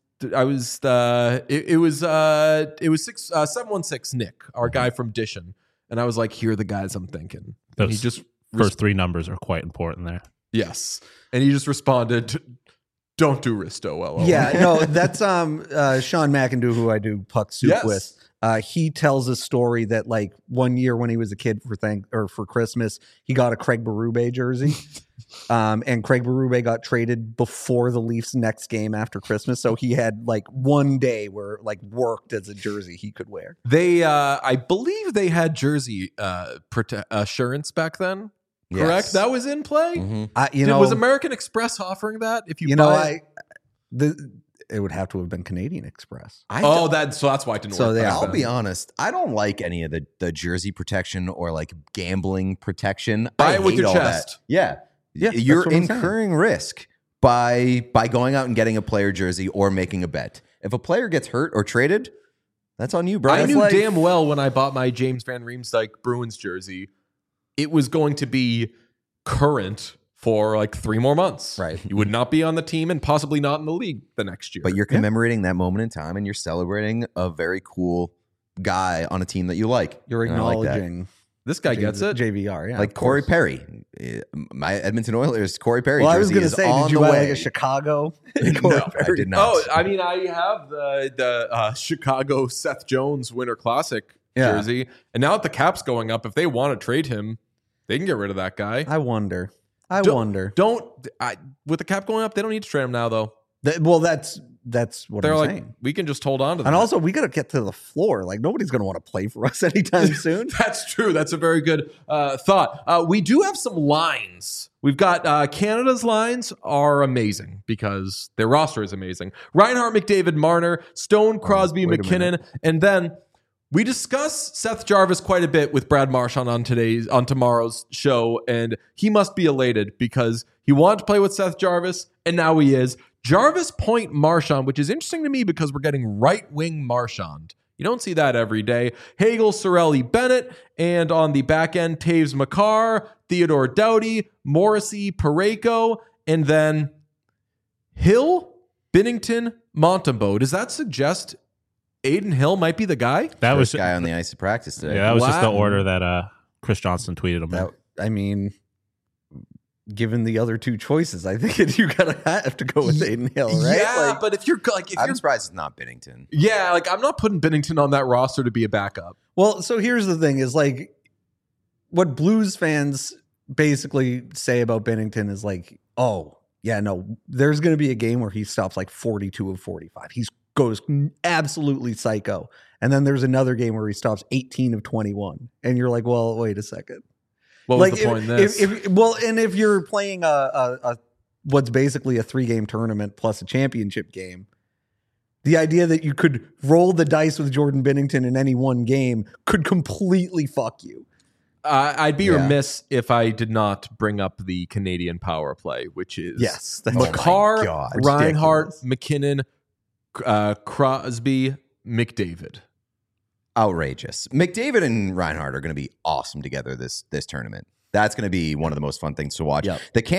716 Nick, our guy from Dishon. And I was like, here are the guys I'm thinking. And he Those just first three numbers are quite important there. yes. And he just responded, don't do Risto, LOL. Yeah, no, that's Sean McIndoe, who I do Puck Soup Yes. with. He tells a story that like one year when he was a kid for Christmas, he got a Craig Berube jersey. And Craig Berube got traded before the Leafs' next game after Christmas. So he had like one day where like worked as a jersey he could wear. They, I believe they had jersey assurance back then. Correct? Yes. That was in play? Mhm. Was American Express offering that? If you, know, buy it? it would have to have been Canadian Express. So that's why it didn't So work. they- back I'll then. be honest. I don't like any of the jersey protection or like gambling protection. Buy I it with hate your all chest. That. Yeah. Yeah, You're that's what I'm saying. incurring risk by going out and getting a player jersey or making a bet. If a player gets hurt or traded, that's on you, bro. I That's knew like- damn well when I bought my James Van Riemsdyk Bruins jersey, it was going to be current for like 3 more months. Right. You would not be on the team and possibly not in the league the next year. But you're commemorating that moment in time and you're celebrating a very cool guy on a team that you like. You're And I like that. acknowledging this guy gets it. JVR, yeah. Like of Corey course. Perry, my Edmonton Oilers, Corey Perry. Well, I was jersey going to is say, on did you the buy way. like a Chicago? No, I did not. Oh, I mean, I have the Chicago Seth Jones Winter Classic Yeah. jersey, and now that the cap's going up, if they want to trade him, they can get rid of that guy. I wonder. With the cap going up, they don't need to trade him now, though. Well, that's what They're I'm like, saying. we can just hold on to them. And also, we got to get to the floor. Like, nobody's going to want to play for us anytime soon. That's true. That's a very good thought. We do have some lines. We've got Canada's lines are amazing because their roster is amazing. Reinhart, McDavid, Marner, Stone, Crosby, wait a McKinnon, and then we discuss Seth Jarvis quite a bit with Brad Marchand on tomorrow's show, and he must be elated because he wanted to play with Seth Jarvis, and now he is. Jarvis Point Marchand, which is interesting to me because we're getting right-wing Marchand. You don't see that every day. Hagel, Sorelli, Bennett, and on the back end, Taves Makar, Theodore Doughty, Morrissey, Parayko, and then Hill, Binnington, Montembeault. Does that suggest Aiden Hill might be the guy? That was First guy on the ice of practice today. yeah, that was just the Wow. order that Chris Johnston tweeted him. in. I mean, given the other two choices, I think you gotta have to go with Aiden Hill, right? Yeah, Like, but if you're like, I'm surprised it's not Binnington. yeah, like I'm not putting Binnington on that roster to be a backup. well, so here's the thing: is like what Blues fans basically say about Binnington is like, oh, Yeah, no, there's going to be a game where he stops like 42 of 45. He goes absolutely psycho. And then there's another game where he stops 18 of 21. And you're like, well, wait a second. What was the point in this? If you're playing a what's basically a 3-game tournament plus a championship game, the idea that you could roll the dice with Jordan Binnington in any one game could completely fuck you. I'd be remiss if I did not bring up the Canadian power play, which is Makar, Reinhart, McKinnon, Crosby, McDavid. Outrageous. McDavid and Reinhart are going to be awesome together this tournament. That's going to be one of the most fun things to watch. Yep. The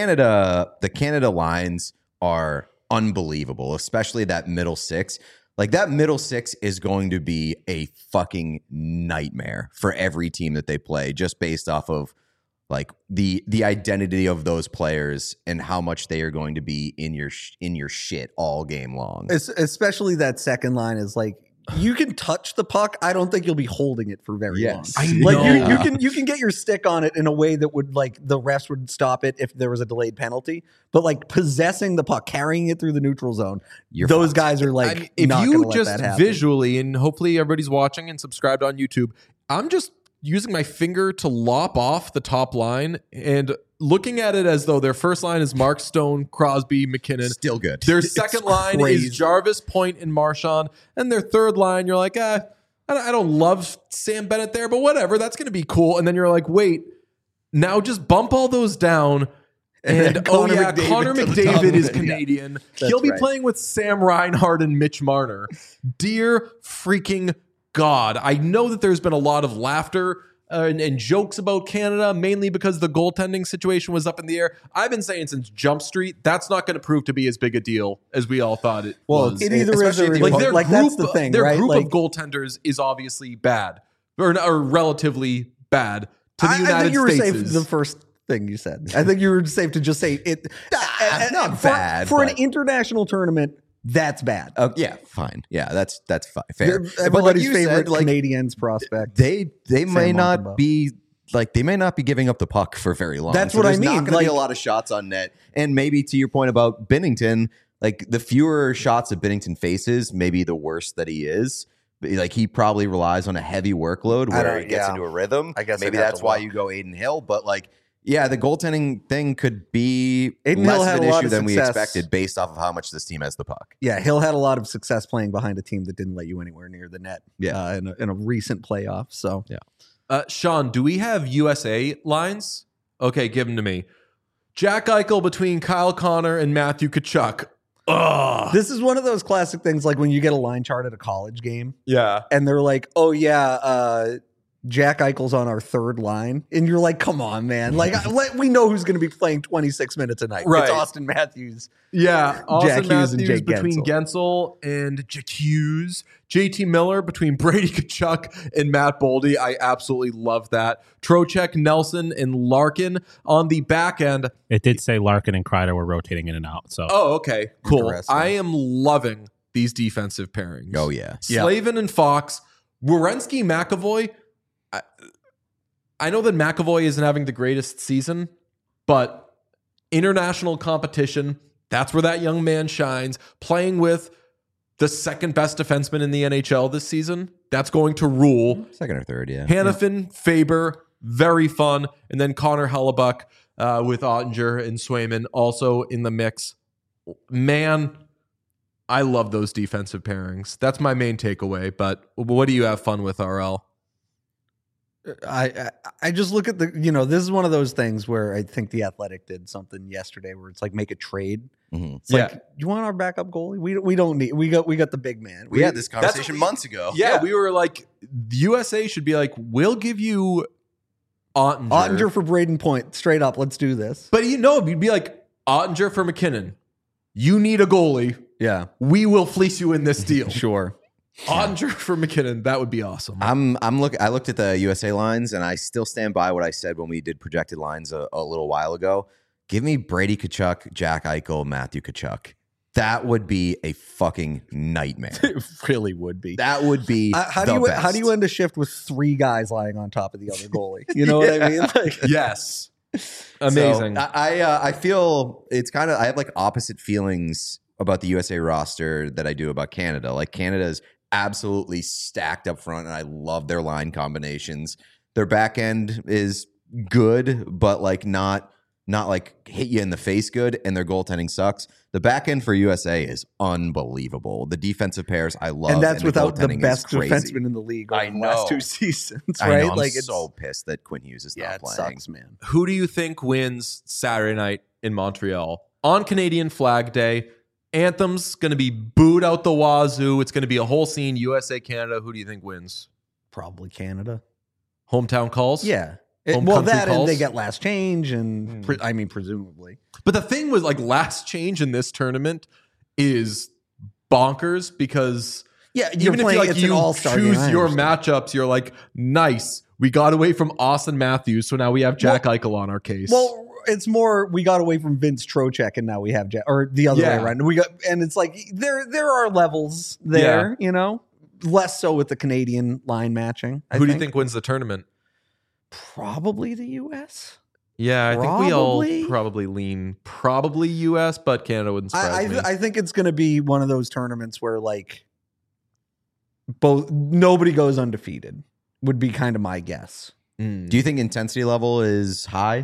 Canada lines are unbelievable, especially that middle six. Like that middle six is going to be a fucking nightmare for every team that they play, just based off of like the identity of those players and how much they are going to be in your shit all game long. Especially that second line is like, you can touch the puck. I don't think you'll be holding it for very long. I Like know. you can get your stick on it in a way that would like the refs would stop it if there was a delayed penalty. But like possessing the puck, carrying it through the neutral zone, those guys are like, I mean, if not you gonna let just that happen. visually, and hopefully everybody's watching and subscribed on YouTube, I'm just using my finger to lop off the top line and looking at it as though their first line is Mark Stone, Crosby, McKinnon. Still good. Their second line crazy. is Jarvis, Point, and Marchand. And their third line, you're like, I don't love Sam Bennett there, but whatever. That's going to be cool. And then you're like, wait, now just bump all those down. And Connor Connor McDavid to the top McDavid of is it. Canadian. That's He'll be right. playing with Sam Reinhart and Mitch Marner. Dear freaking God. I know that there's been a lot of laughter and jokes about Canada, mainly because the goaltending situation was up in the air. I've been saying since Jump Street, that's not going to prove to be as big a deal as we all thought it was. it either is especially or if it you- isn't. Like that's the thing, their right? group Like, of goaltenders is obviously bad or relatively bad to the I United think you were States. safe the first thing you said. I think you were safe to just say it. Not for, bad, for an but- international tournament. That's bad. Yeah, fine. Yeah, that's fine. Fair. They're But like everybody's you favorite said, like Canadians prospect. they may not Montembeault. be like they may not be giving up the puck for very long. That's So what I there's mean, Not going to be a like- lot of shots on net, and maybe to your point about Binnington, like the fewer shots that Binnington faces, maybe the worse that he is. Like he probably relies on a heavy workload where he gets into a rhythm. I guess maybe I'd have that's to why look. you go Aiden Hill, but like. Yeah, the goaltending thing could be Aiden Hill less had of a an lot issue of than we success. expected based off of how much this team has the puck. Yeah, Hill had a lot of success playing behind a team that didn't let you anywhere near the net. Yeah. In a recent playoff. So Sean, do we have USA lines? Okay, give them to me. Jack Eichel between Kyle Connor and Matthew Tkachuk. Ugh. this is one of those classic things like when you get a line chart at a college game Yeah. and they're like, oh yeah, Jack Eichel's on our third line. And you're like, come on, man. Like we know who's going to be playing 26 minutes a night. Right. It's Austin Matthews. Yeah. Austin Jack Hughes and Matthews Jake between Gensel and Jack Hughes. JT Miller between Brady Tkachuk and Matt Boldy. I absolutely love that. Trocheck, Nelson, and Larkin on the back end. It did say Larkin and Kreider were rotating in and out. So Oh, okay. Cool. Interesting. I am loving these defensive pairings. Oh yeah. Slavin and Fox. Werenski, McAvoy. I know that McAvoy isn't having the greatest season, but international competition, that's where that young man shines. Playing with the second best defenseman in the NHL this season, that's going to rule. Second or third, yeah. Hannafin, Faber, very fun. And then Connor Hellebuck with Ottinger and Swayman also in the mix. Man, I love those defensive pairings. That's my main takeaway. But what do you have fun with, RL? I just look at this is one of those things where I think the Athletic did something yesterday where it's like make a trade. Mhm. It's like, you want our backup goalie? We don't need. We got the big man. We had this conversation months ago. Yeah, we were like, the USA should be like, we'll give you Ottinger for Braden Point. Straight up, let's do this. But you'd be like, Ottinger for McKinnon. You need a goalie. Yeah, We will fleece you in this deal. sure. Ottinger for McKinnon. That would be awesome. I looked at the USA lines, and I still stand by what I said when we did projected lines a little while ago. Give me Brady Tkachuk, Jack Eichel, Matthew Tkachuk. That would be a fucking nightmare. It really would be. That would be How the do you best. end a shift with three guys lying on top of the other goalie? You know what I mean? Like, Yes. Amazing. So, I feel it's kind of, I have like opposite feelings about the USA roster that I do about Canada. Like Canada's absolutely stacked up front, and I love their line combinations. Their back end is good, but like not like hit you in the face good, and their goaltending sucks. The back end for USA is unbelievable. The defensive pairs I love, And that's without the goaltending is best crazy. defenseman in the league over I the last know. 2 seasons, I right? know, I'm Like it's so pissed that Quinn Hughes is yeah, not it playing. sucks, man. Who do you think wins Saturday night in Montreal on Canadian Flag Day? Anthem's going to be booed out the wazoo. It's going to be a whole scene. USA, Canada. Who do you think wins? Probably Canada. Hometown calls? Yeah. Home Well, country that and calls? they get last change, and I mean, presumably. But the thing was, like, last change in this tournament is bonkers because Yeah, you're even if playing, like it's an you all-star choose game, I your understand. matchups, you're like, nice. We got away from Austin Matthews, so now we have Jack Eichel on our case. Well, it's more we got away from Vince Trocheck, and now we have or the other Yeah. way around. And it's like there are levels there, you know. Less so with the Canadian line matching. who do you think wins the tournament? Probably the U.S. Yeah, I think we all Probably. probably lean probably US, but Canada wouldn't surprise me. I think it's going to be one of those tournaments where like nobody goes undefeated. Would be kind of my guess. Mm. Do you think intensity level is high?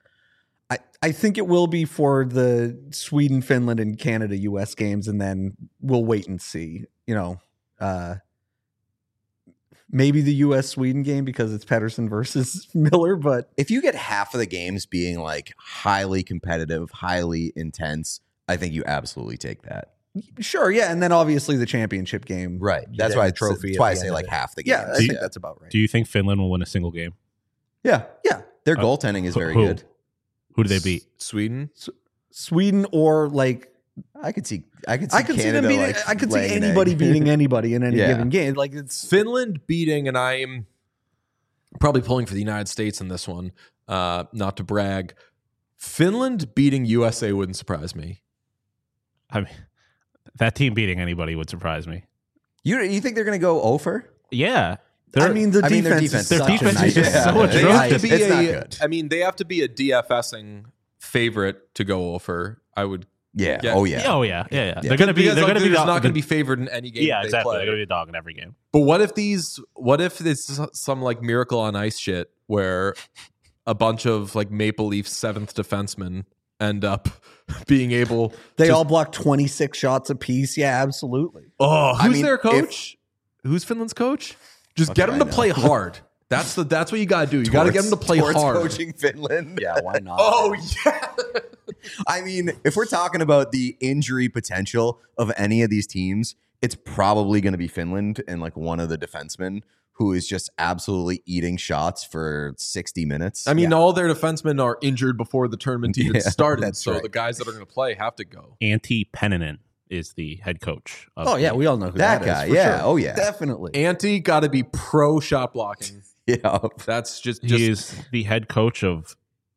I think it will be for the Sweden, Finland, and Canada U.S. games, and then we'll wait and see. You know, maybe the U.S. Sweden game because it's Pedersen versus Miller, but If you get half of the games being like highly competitive, highly intense, I think you absolutely take that. sure, yeah. And then obviously the championship game, Right. you That's get why the trophy. That's at why I the say end of like it. half the Yeah, games. I think that's about right. Do you think Finland will win a single game? Yeah. Yeah, Their goaltending is very Who? good. Who do they beat? Sweden? Sweden or like I could see I could see Canada them beating. like I could see laying an anybody egg. beating anybody in any Yeah. given game. Like it's Finland beating, and I'm probably pulling for the United States in this one, not to brag. Finland beating USA wouldn't surprise me. I mean, that team beating anybody would surprise me. You think they're going to go over? Yeah. I mean, the I mean, their defense. defense is Their such a defense is nightmare. just so They have to atrocious. be It's not a, good. I mean, they have to be a DFSing favorite to go over. I would. Yeah. Yeah. Oh yeah. Oh yeah. They're gonna be. Because, They're like, gonna be not the- going to be favored in any game. Yeah, they exactly. play. They're gonna be a dog in every game. But what if it's some like Miracle on Ice shit where a bunch of like Maple Leafs 7th defensemen end up being able They to, all block 26 shots apiece. Yeah, absolutely. oh, I who's mean, their coach? Who's Finland's coach? Just get do him I to know? play hard. That's what you got to do. You got to get him to play Towards hard. coaching Finland. Yeah, why not? Oh yeah. I mean, if we're talking about the injury potential of any of these teams, it's probably going to be Finland and like one of the defensemen who is just absolutely eating shots for 60 minutes. I mean, all their defensemen are injured before the tournament even Yeah, started. that's So right. the guys that are going to play have to go. Antti Pennanen is the head coach. Of Oh yeah, the- we all know who That that, guy, is. For yeah. sure. Oh, yeah. definitely. Antti got to be pro shot blocking. yeah. That's just he is the head coach of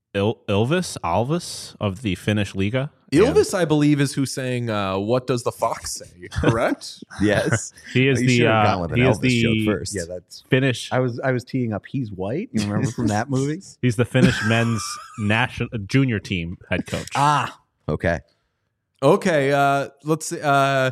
Alvis of the Finnish Liga. Ilves, I believe, is who's saying, "What does the fox say?" Correct. Yes. He is You the should have gone with an he is Elvis joke the first. Yeah, that's. Finnish. I was teeing up. He's white. You remember from that movie? He's the Finnish men's national junior team head coach. Ah, Okay. Okay, let's see.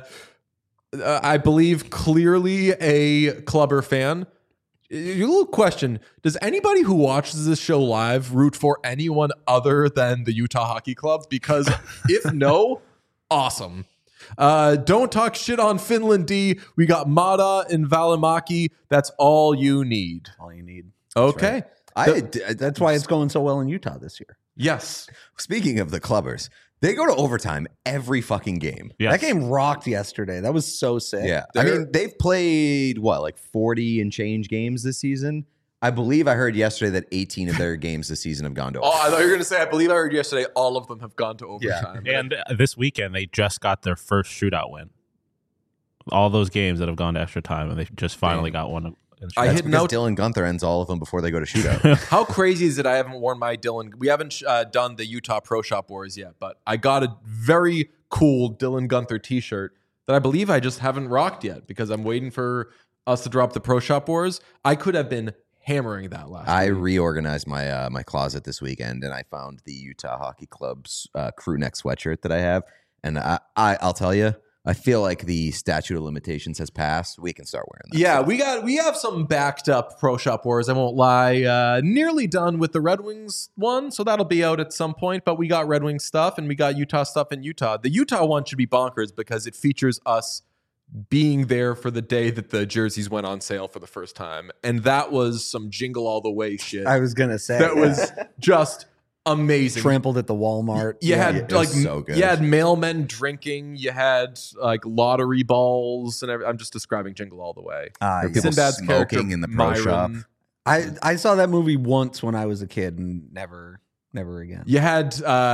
I believe clearly a Clubber fan. A little question: does anybody who watches this show live root for anyone other than the Utah Hockey Club? Because if no, awesome. Don't talk shit on Finland D. We got Mata and Valimaki. That's all you need. all you need. Okay. That's why it's going so well in Utah this year. Yes. Speaking of the Clubbers, they go to overtime every fucking game. Yes. That game rocked yesterday. That was so sick. Yeah. I They're- mean, they've played what, like 40 and change games this season? I believe I heard yesterday that 18 of their games this season have gone to Oh, I overtime. thought you were going to say, I believe I heard yesterday, all of them have gone to overtime. And this weekend, they just got their first shootout win. All those games that have gone to extra time, and they just finally got one. In I That's hit because note. Dylan Gunther ends all of them before they go to shootout. How crazy is it I haven't worn my Dylan? We haven't done the Utah Pro Shop Wars yet, but I got a very cool Dylan Gunther t-shirt that I believe I just haven't rocked yet because I'm waiting for us to drop the Pro Shop Wars. I could have been hammering that last I week. reorganized my my closet this weekend, and I found the Utah Hockey Club's crew neck sweatshirt that I have. And I'll tell you, I feel like the statute of limitations has passed. We can start wearing that. Yeah, we have some backed up Pro Shop Wars, I won't lie. Nearly done with the Red Wings one, so that'll be out at some point. But we got Red Wings stuff and we got Utah stuff in Utah. The Utah one should be bonkers because it features us being there for the day that the jerseys went on sale for the first time. And that was some Jingle All the Way shit. I was gonna say That was just amazing. trampled at the Walmart. You had it like was so good. you had mailmen drinking. You had like lottery balls, and I'm just describing Jingle All the Way. There were people Sinbad's character, smoking in the pro shop. Myron. I saw that movie once when I was a kid and never again. You had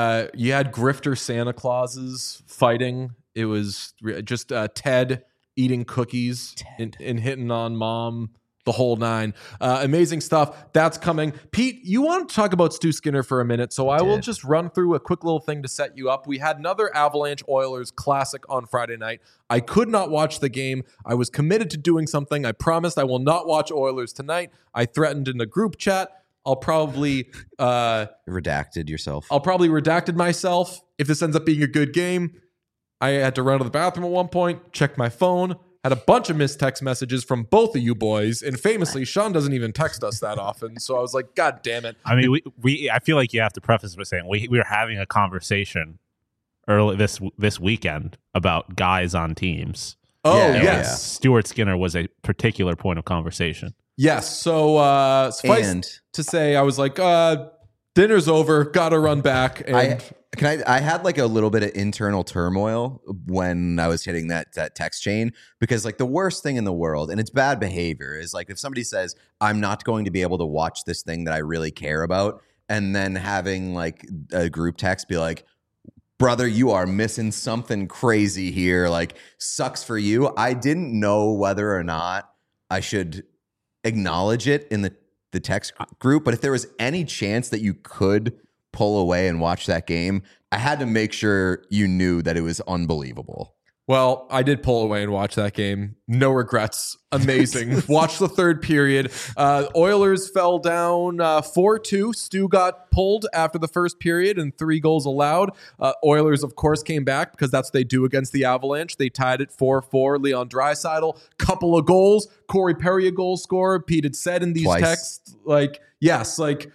grifter Santa Clauses fighting. It was just Ted eating cookies and hitting on mom. The whole nine. Amazing stuff. That's coming. Pete, you want to talk about Stu Skinner for a minute, so I will just run through a quick little thing to set you up. We had another Avalanche Oilers classic on Friday night. I could not watch the game. I was committed to doing something. I promised I will not watch Oilers tonight. I threatened in a group chat. I'll probably Redacted yourself. I'll probably redacted myself if this ends up being a good game. I had to run to the bathroom at one point, check my phone. Had a bunch of missed text messages from both of you boys, and famously, Sean doesn't even text us that often. So I was like, "God damn it!" I mean, I feel like you have to preface by saying we were having a conversation early this weekend about guys on teams. Oh Yeah, yes, Stuart Skinner was a particular point of conversation. yes. So suffice And to say, I was like, "Dinner's over. Got to run back." And I had like a little bit of internal turmoil when I was hitting that text chain, because like the worst thing in the world, and it's bad behavior, is like if somebody says, I'm not going to be able to watch this thing that I really care about, and then having like a group text be like, brother, you are missing something crazy here. Like, sucks for you. I didn't know whether or not I should acknowledge it in the text group, but if there was any chance that you could pull away and watch that game, I had to make sure you knew that it was unbelievable. well, I did pull away and watch that game. No regrets. Amazing. Watch the third period. Oilers fell down 4-2. Stu got pulled after the first period and 3 goals allowed. Oilers, of course, came back because that's what they do against the Avalanche. They tied it 4-4. Leon Draisaitl, couple of goals. Corey Perry, a goal scorer. Pete had said in these Twice. texts, like, yes, like,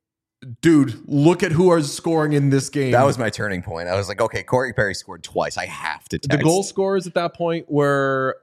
dude, look at who are scoring in this game. That was my turning point. I was like, okay, Corey Perry scored twice. I have to text. The goal scorers at that point were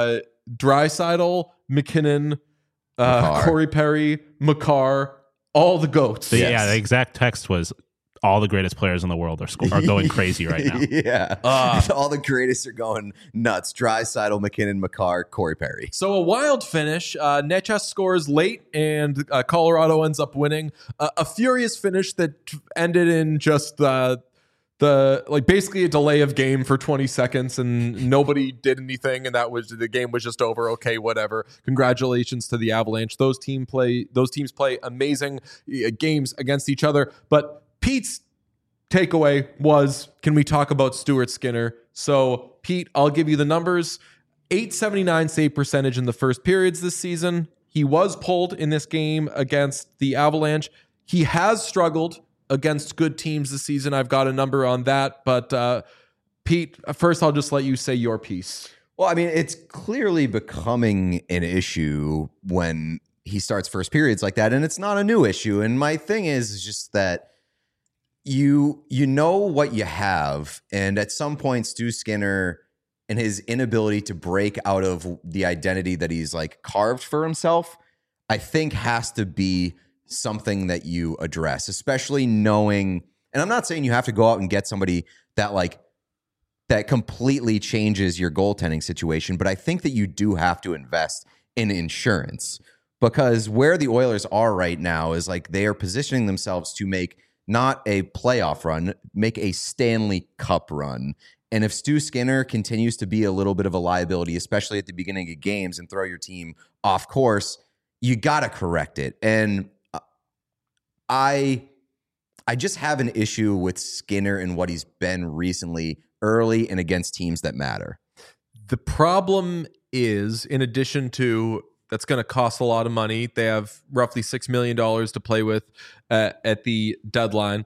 Draisaitl, McKinnon, Makar. Corey Perry, Makar, all the goats. Yeah, the exact text was all the greatest players in the world are going crazy right now. Yeah. All the greatest are going nuts. Draisaitl, McKinnon, Makar, Corey Perry. So a wild finish. Netchess scores late, and Colorado ends up winning. A furious finish that ended in just the like basically a delay of game for 20 seconds, and nobody did anything, and the game was just over. Okay, whatever. Congratulations to the Avalanche. Those teams play amazing games against each other, but Pete's takeaway was, can we talk about Stuart Skinner? So, Pete, I'll give you the numbers. .879 save percentage in the first periods this season. He was pulled in this game against the Avalanche. He has struggled against good teams this season. I've got a number on that. But, Pete, first I'll just let you say your piece. Well, I mean, it's clearly becoming an issue when he starts first periods like that, and it's not a new issue. And my thing is just that you know what you have, and at some point Stu Skinner and his inability to break out of the identity that he's like carved for himself, I think has to be something that you address, especially knowing, and I'm not saying you have to go out and get somebody that completely changes your goaltending situation, but I think that you do have to invest in insurance, because where the Oilers are right now is like they are positioning themselves to make not a playoff run, make a Stanley Cup run. And if Stu Skinner continues to be a little bit of a liability, especially at the beginning of games, and throw your team off course, you got to correct it. And I just have an issue with Skinner and what he's been recently, early and against teams that matter. The problem is, in addition to That's going to cost a lot of money. They have roughly $6 million to play with at the deadline.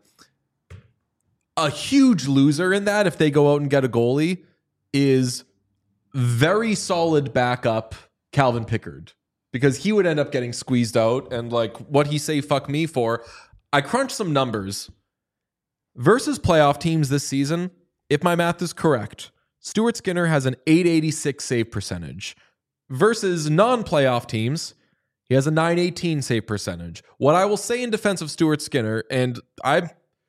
A huge loser in that, if they go out and get a goalie, is very solid backup Calvin Pickard, because he would end up getting squeezed out. And like, what he say fuck me for? I crunched some numbers. Versus playoff teams this season, if my math is correct, Stuart Skinner has an .886 save percentage. Versus non-playoff teams, he has a .918 save percentage. What I will say in defense of Stuart Skinner, and I'm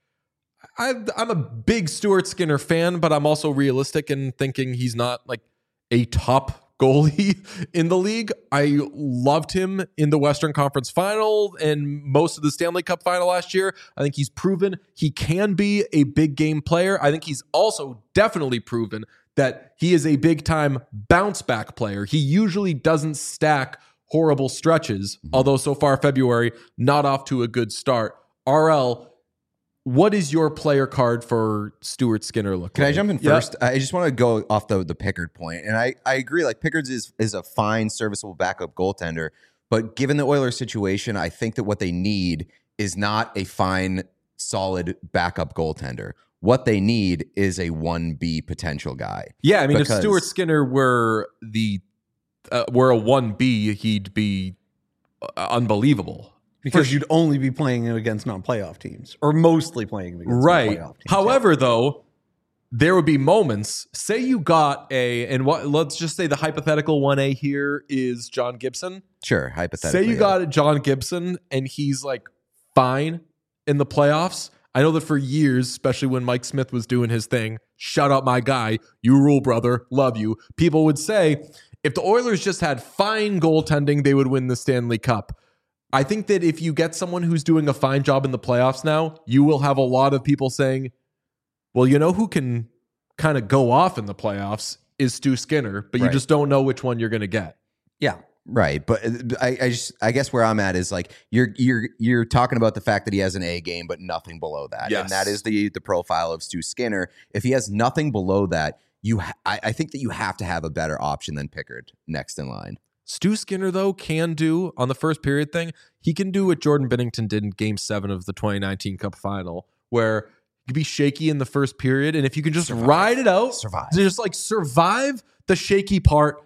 a big Stuart Skinner fan, but I'm also realistic in thinking he's not like a top goalie in the league. I loved him in the Western Conference Final and most of the Stanley Cup Final last year. I think he's proven he can be a big game player. I think he's also definitely proven that he is a big time bounce back player. He usually doesn't stack horrible stretches, although so far February, not off to a good start. RL, what is your player card for Stuart Skinner look Can like? I jump in first? I just want to go off the Pickard point. And I agree, like Pickard is a fine, serviceable backup goaltender. But given the Oilers situation, I think that what they need is not a fine, solid backup goaltender. What they need is a 1B potential guy. Yeah, I mean, Because- if Stuart Skinner were a 1B, he'd be unbelievable. Because you'd only be playing him against non-playoff teams, or mostly playing him against Right. non-playoff teams. However, though, there would be moments. Say you got let's just say the hypothetical 1A here is John Gibson. Sure, hypothetically. Say you got John Gibson and he's like fine in the playoffs. I know that for years, especially when Mike Smith was doing his thing, shout out my guy, you rule, brother, love you. People would say if the Oilers just had fine goaltending, they would win the Stanley Cup. I think that if you get someone who's doing a fine job in the playoffs now, you will have a lot of people saying, well, you know who can kind of go off in the playoffs is Stu Skinner, but you Right. just don't know which one you're going to get. Yeah. Right, but I guess where I'm at is like you're talking about the fact that he has an A game, but nothing below that, Yes. and that is the profile of Stu Skinner. If he has nothing below that, I think that you have to have a better option than Pickard next in line. Stu Skinner, though, can do on the first period thing. He can do what Jordan Binnington did in Game 7 of the 2019 Cup Final, where you can be shaky in the first period, and if you can just ride it out, just like survive the shaky part,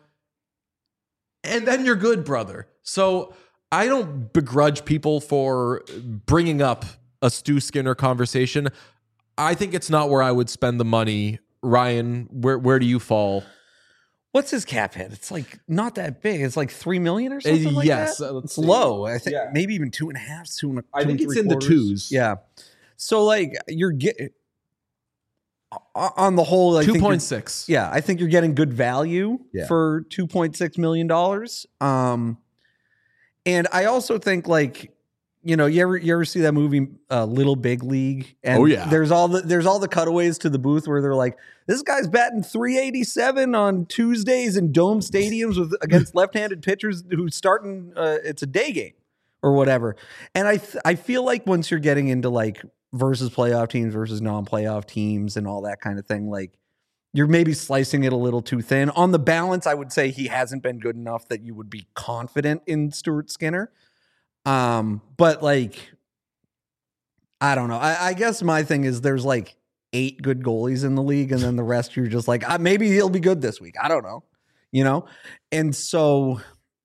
and then you're good, brother. So I don't begrudge people for bringing up a Stu Skinner conversation. I think it's not where I would spend the money. Ryan, where do you fall? What's his cap hit? It's like not that big. It's like $3 million or something like yes, that. let's It's see. low. I think Yeah. maybe even 2.5, two I think and it's in the 3/4. twos. Yeah. So like you're getting on the whole, I think you're- 2.6. Yeah, I think you're getting good value Yeah. for $2.6 million. And I also think like, you know, you ever see that movie Little Big League? And Oh, yeah. there's all the cutaways to the booth where they're like, this guy's batting .387 on Tuesdays in dome stadiums against left-handed pitchers who's starting. It's a day game or whatever. And I feel like once you're getting into like versus playoff teams versus non-playoff teams and all that kind of thing, like you're maybe slicing it a little too thin. On the balance, I would say he hasn't been good enough that you would be confident in Stuart Skinner. But like, I don't know. I guess my thing is there's like 8 good goalies in the league, and then the rest you're just like, maybe he'll be good this week. I don't know, you know? And so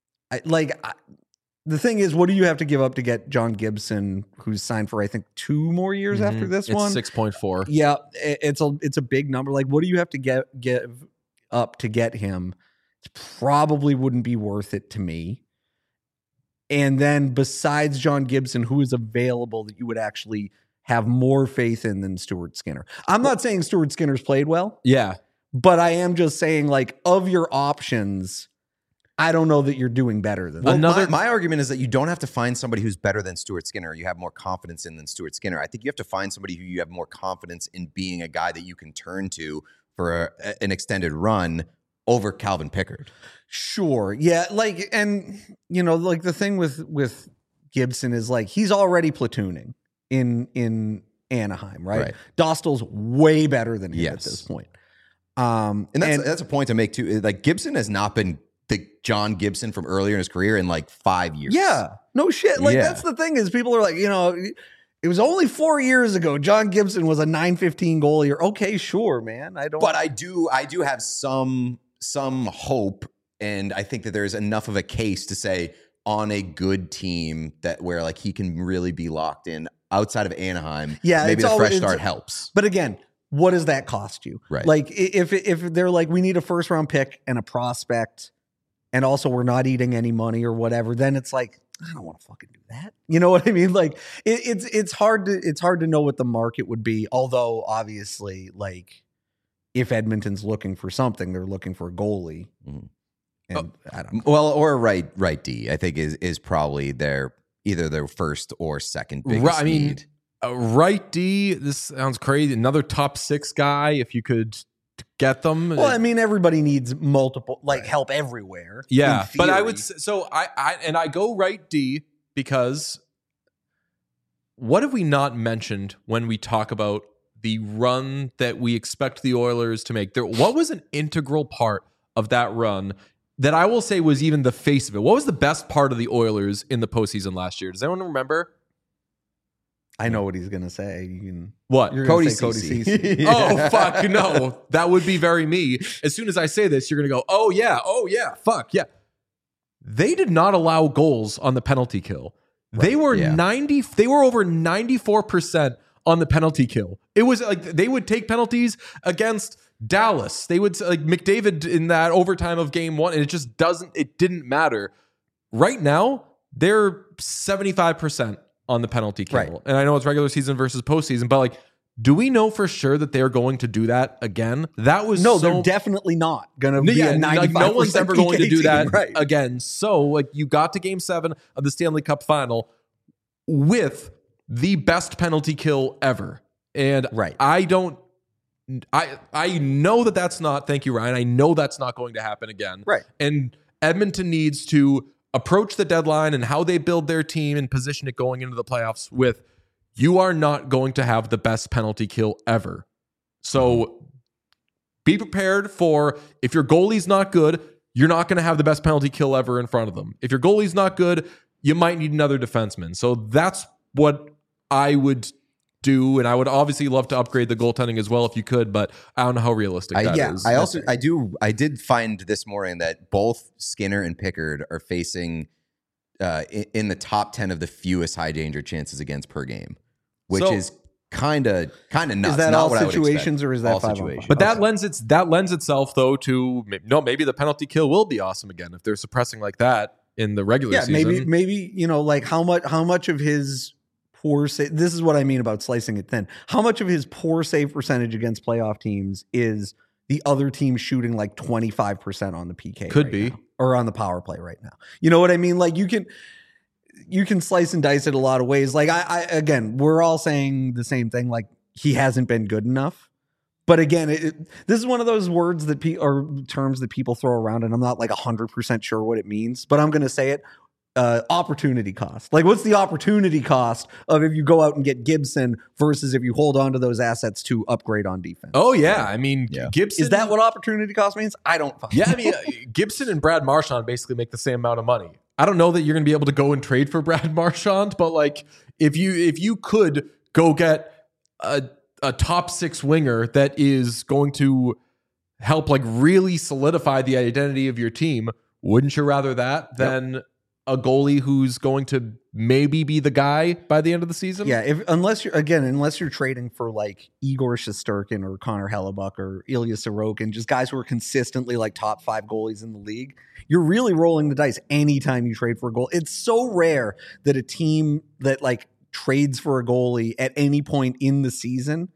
the thing is, what do you have to give up to get John Gibson, who's signed for, I think, 2 more years after this It's one? 6.4. Yeah, it's a big number. Like, what do you have to give up to get him? It probably wouldn't be worth it to me. And then besides John Gibson, who is available that you would actually have more faith in than Stuart Skinner? I'm not saying Stuart Skinner's played well, Yeah. but I am just saying, like, of your options, I don't know that you're doing better than Well, that. my argument is that you don't have to find somebody who's better than Stuart Skinner. You have more confidence in than Stuart Skinner. I think you have to find somebody who you have more confidence in being a guy that you can turn to for an extended run over Calvin Pickard. Sure. Yeah. Like, and you know, like the thing with Gibson is like, he's already platooning in Anaheim, right? Dostal's way better than him at Yes. this point. And that's a point to make too. Like Gibson has not been the John Gibson from earlier in his career in like 5 years. Yeah, no shit. Like Yeah. that's the thing is people are like, it was only 4 years ago. John Gibson was a .915 goalie. Or okay, sure, man. But I do have some hope, and I think that there's enough of a case to say on a good team that where like he can really be locked in outside of Anaheim. Yeah, maybe it's the fresh always- start helps. But again, what does that cost you? Right. Like if they're like, we need a first round pick and a prospect, and also we're not eating any money or whatever, then it's like, I don't want to fucking do that. You know what I mean? Like it's hard to know what the market would be. Although obviously, like if Edmonton's looking for something, they're looking for a goalie. Mhm. And I don't know. Well, or right D, I think is probably either their first or second biggest Right, I mean, need. Right D, this sounds crazy. Another top 6 guy, if you could get them. Well, I mean, everybody needs multiple, like help everywhere. Yeah, in but I theory. would so I go right D because what have we not mentioned when we talk about the run that we expect the Oilers to make? What was an integral part of that run that I will say was even the face of it? What was the best part of the Oilers in the postseason last year? Does anyone remember? I know what he's gonna say. What? You're gonna Cody say Cody Ceci. Ceci. Oh, fuck, no. That would be very me. As soon as I say this, you're going to go, oh, yeah, fuck, yeah. They did not allow goals on the penalty kill. They were yeah. They were over 94% on the penalty kill. It was like they would take penalties against Dallas. They would like McDavid in that overtime of game 1, and it didn't matter. Right now, they're 75% on the penalty kill. Right. And I know it's regular season versus postseason, but like, do we know for sure that they're going to do that again? That was No, so, they're definitely not gonna be a 95%. like, no one's ever going to do PK that team, right? again. So like you got to game 7 of the Stanley Cup final with the best penalty kill ever. And Right. I know that that's not, thank you, Ryan. I know that's not going to happen again. Right. And Edmonton needs to approach the deadline and how they build their team and position it going into the playoffs with, you are not going to have the best penalty kill ever. So be prepared for, if your goalie's not good, you're not going to have the best penalty kill ever in front of them. If your goalie's not good, you might need another defenseman. So that's what I would do. And I would obviously love to upgrade the goaltending as well if you could, but I don't know how realistic that is. I did find this morning that both Skinner and Pickard are facing in the top 10 of the fewest high danger chances against per game, which So- is kind of nuts. Is that Not all what I would situations expect. or is that All 5-on-5? situations. But that lends itself though to maybe the penalty kill will be awesome again if they're suppressing like that in the regular Yeah, season. maybe like how much of his poor save, this is what I mean about slicing it thin. How much of his poor save percentage against playoff teams is the other team shooting like 25% on the PK? Could right be. now, or on the power play right now. You know what I mean? Like you can slice and dice it a lot of ways. Like I again, we're all saying the same thing. Like he hasn't been good enough. But again, this is one of those words that or terms that people throw around, and I'm not like 100% sure what it means. But I'm going to say it: opportunity cost. Like, what's the opportunity cost of if you go out and get Gibson versus if you hold on to those assets to upgrade on defense? Oh yeah, I mean Yeah. Gibson. Is that what opportunity cost means? I don't. Yeah, I mean Gibson and Brad Marchand basically make the same amount of money. I don't know that you're going to be able to go and trade for Brad Marchand, but like if you could go get a top 6 winger that is going to help like really solidify the identity of your team, wouldn't you rather that than a goalie who's going to maybe be the guy by the end of the season? Yeah, unless you're trading for like Igor Shesterkin or Connor Hellebuck or Ilya Sorokin, just guys who are consistently like top 5 goalies in the league, you're really rolling the dice anytime you trade for a goal. It's so rare that a team that like trades for a goalie at any point in the season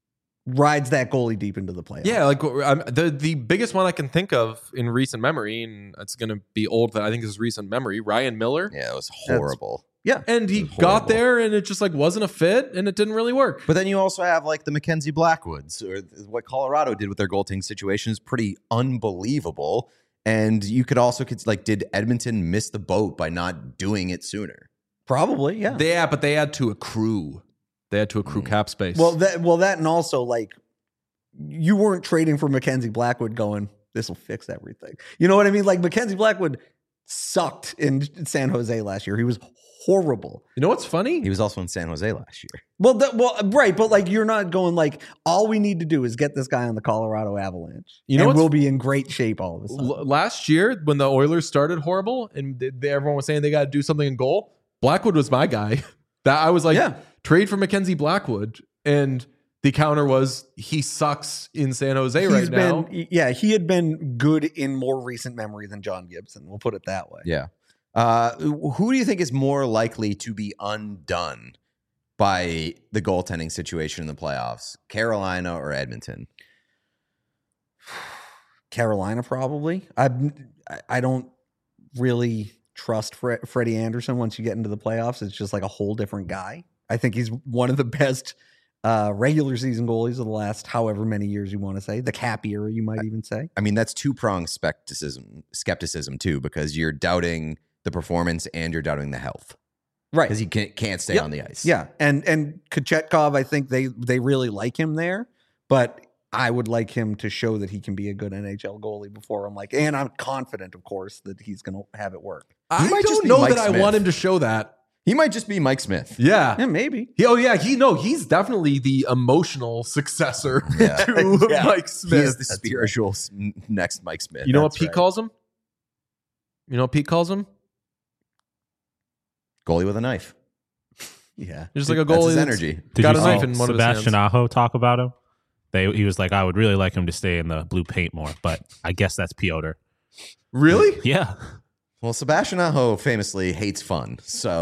rides that goalie deep into the playoffs. Yeah, like the biggest one I can think of in recent memory, and it's going to be old, that I think is recent memory, Ryan Miller. Yeah, it was horrible. Yeah. And he It was got horrible. there and it just like wasn't a fit and it didn't really work. But then you also have like the Mackenzie Blackwoods, or what Colorado did with their goaltending situation is pretty unbelievable. And you could also like, did Edmonton miss the boat by not doing it sooner? Probably, yeah. But they had to accrue. They had to accrue cap space. Well, that and also like you weren't trading for Mackenzie Blackwood going, this will fix everything. You know what I mean? Like Mackenzie Blackwood sucked in San Jose last year. He was horrible. You know what's funny? He was also in San Jose last year. Well, right, but like you're not going like all we need to do is get this guy on the Colorado Avalanche. You know and what's- we'll be in great shape all of a sudden. Last year, when the Oilers started horrible and everyone was saying they got to do something in goal, Blackwood was my guy. That I was like, Yeah. trade for Mackenzie Blackwood. And the counter was, he sucks in San Jose right now. He had been good in more recent memory than John Gibson. We'll put it that way. Yeah. Who do you think is more likely to be undone by the goaltending situation in the playoffs? Carolina or Edmonton? Carolina, probably. I don't really trust Freddie Anderson once you get into the playoffs. It's just like a whole different guy. I think he's one of the best regular season goalies of the last however many years you want to say. The Cap era, you might even say. I mean, that's two-pronged skepticism too, because you're doubting the performance and you're doubting the health. Right. Because he can't stay Yep. on the ice. Yeah. And Kochetkov, I think they really like him there, but I would like him to show that he can be a good NHL goalie before I'm like, and I'm confident, of course, that he's going to have it work. I might just don't be know Mike that I Smith. want him to show that. He might just be Mike Smith. Yeah. Yeah, maybe. He's definitely the emotional successor to Yeah. Mike Smith. He is the spiritual next Mike Smith. You know what That's Pete right. calls him? You know what Pete calls him? Goalie with a knife. Yeah. Just like a That's goalie his that's energy. Did got you a see knife in one of his Sebastian hands. Aho talk about him? He was like, I would really like him to stay in the blue paint more, but I guess that's Piotr. Really? Yeah. Well, Sebastian Aho famously hates fun. So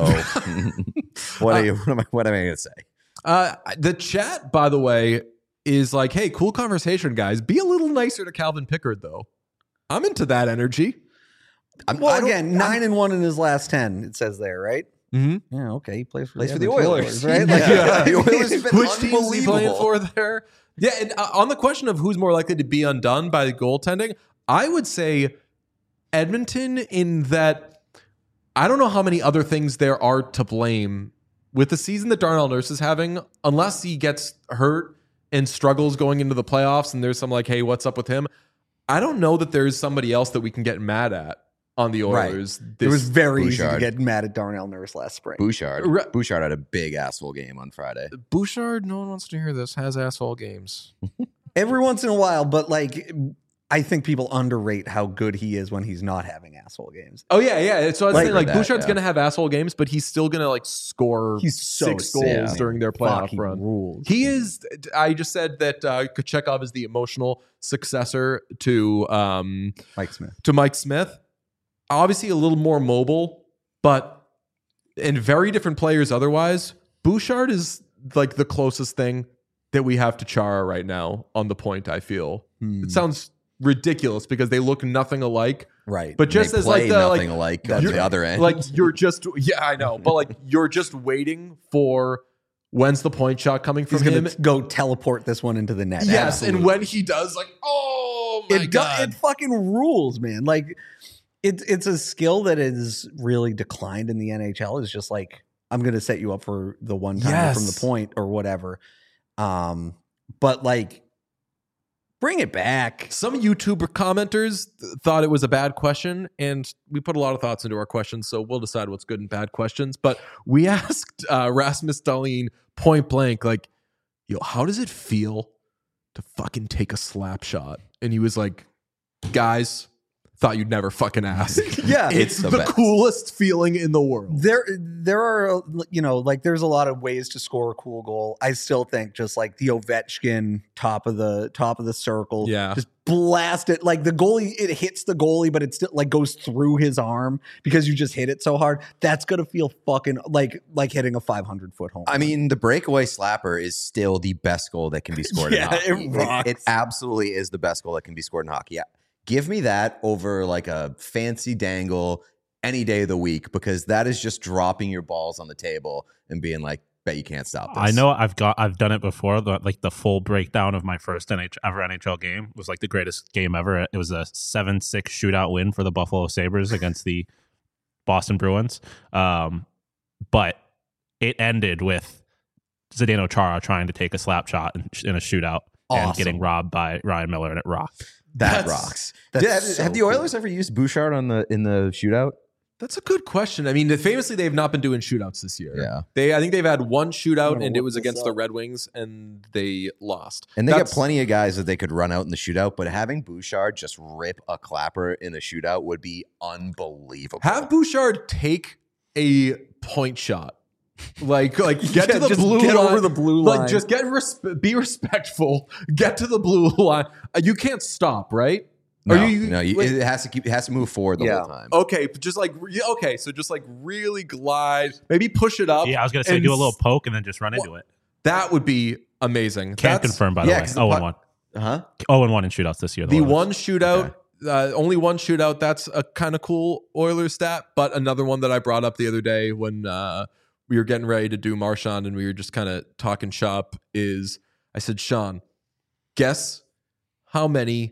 what am I going to say? The chat, by the way, is like, hey, cool conversation, guys. Be a little nicer to Calvin Pickard, though. I'm into that energy. Well, again, 9-1 in his last 10, it says there, right? Mm-hmm. Yeah, okay. He plays for Plays for the Edmonton Oilers. right? Yeah. The Oilers have been Which team is he playing unbelievable. for there? Yeah, and on the question of who's more likely to be undone by the goaltending, I would say Edmonton, in that I don't know how many other things there are to blame with the season that Darnell Nurse is having, unless he gets hurt and struggles going into the playoffs and there's some like, hey, what's up with him? I don't know that there's somebody else that we can get mad at on the Oilers. It was very easy to Bouchard. get mad at Darnell Nurse last spring. Bouchard. Right. Bouchard had a big asshole game on Friday. Bouchard, no one wants to hear this, has asshole games. Every once in a while, but like I think people underrate how good he is when he's not having asshole games. Oh yeah. So I was Like- saying, like, that, Bouchard's yeah. gonna have asshole games, but he's still gonna like score He's so 6 goals sick. during their playoff Fucking run. rules. He is. I just said that Kochetkov is the emotional successor to Mike Smith. Mike Smith. Obviously, a little more mobile, but and very different players. Otherwise, Bouchard is like the closest thing that we have to Chara right now on the point. I feel it sounds ridiculous because they look nothing alike. Right. But just They as play like the nothing alike on you're- the other end. like you're just I know, but like you're just waiting for when's the point shot coming from he's him. going to go teleport this one into the net. Yes, Absolutely. and when he does, like, oh my god, It fucking rules, man. Like it's a skill that is really declined in the NHL. It's just like I'm going to set you up for the one time Yes. from the point or whatever. But like bring it back. Some YouTuber commenters thought it was a bad question, and we put a lot of thoughts into our questions, so we'll decide what's good and bad questions. But we asked Rasmus Dahlin point blank, like, yo, how does it feel to fucking take a slap shot? And he was like, guys, thought you'd never fucking ask. Yeah. It's the best. coolest feeling in the world. There are, you know, like there's a lot of ways to score a cool goal. I still think just like the Ovechkin top of the circle, Yeah. just blast it. Like the goalie, it hits the goalie, but it still like goes through his arm because you just hit it so hard. That's gonna feel fucking like hitting a 500-foot home. I mean, the breakaway slapper is still the best goal that can be scored Yeah, in hockey. it rocks. It absolutely is the best goal that can be scored in hockey. Yeah. Give me that over like a fancy dangle any day of the week, because that is just dropping your balls on the table and being like, bet you can't stop this. I know I've done it before. The full breakdown of my first ever NHL game was like the greatest game ever. It was a 7-6 shootout win for the Buffalo Sabres against the Boston Bruins. But it ended with Zdeno Chara trying to take a slap shot in a shootout and Awesome. getting robbed by Ryan Miller, and it rocked. That rocks. That's Have the so Oilers ever used Bouchard in the shootout? That's a good question. I mean, famously, they've not been doing shootouts this year. Yeah. I think they've had one I'm shootout, gonna and it look was this against the up. Red Wings, and they lost. And they got plenty of guys that they could run out in the shootout, but having Bouchard just rip a clapper in a shootout would be unbelievable. Have Bouchard take a point shot. Like get to the just blue get line. over the blue line. Like just be respectful. Get to the blue line. You can't stop, right? No, Are you- it has to move forward the Yeah. whole time. Okay, but just so just like really glide, maybe push it up. Yeah, I was gonna say and do a little poke and then just run into it. That would be amazing. Can't confirm by the yeah, way. 'cause the 0-1. Huh? 0-1 in shootouts this year. The Oilers. one shootout, only one shootout. That's a kind of cool Oilers stat. But another one that I brought up the other day when we were getting ready to do Marchand and we were just kind of talking shop is I said, Sean, guess how many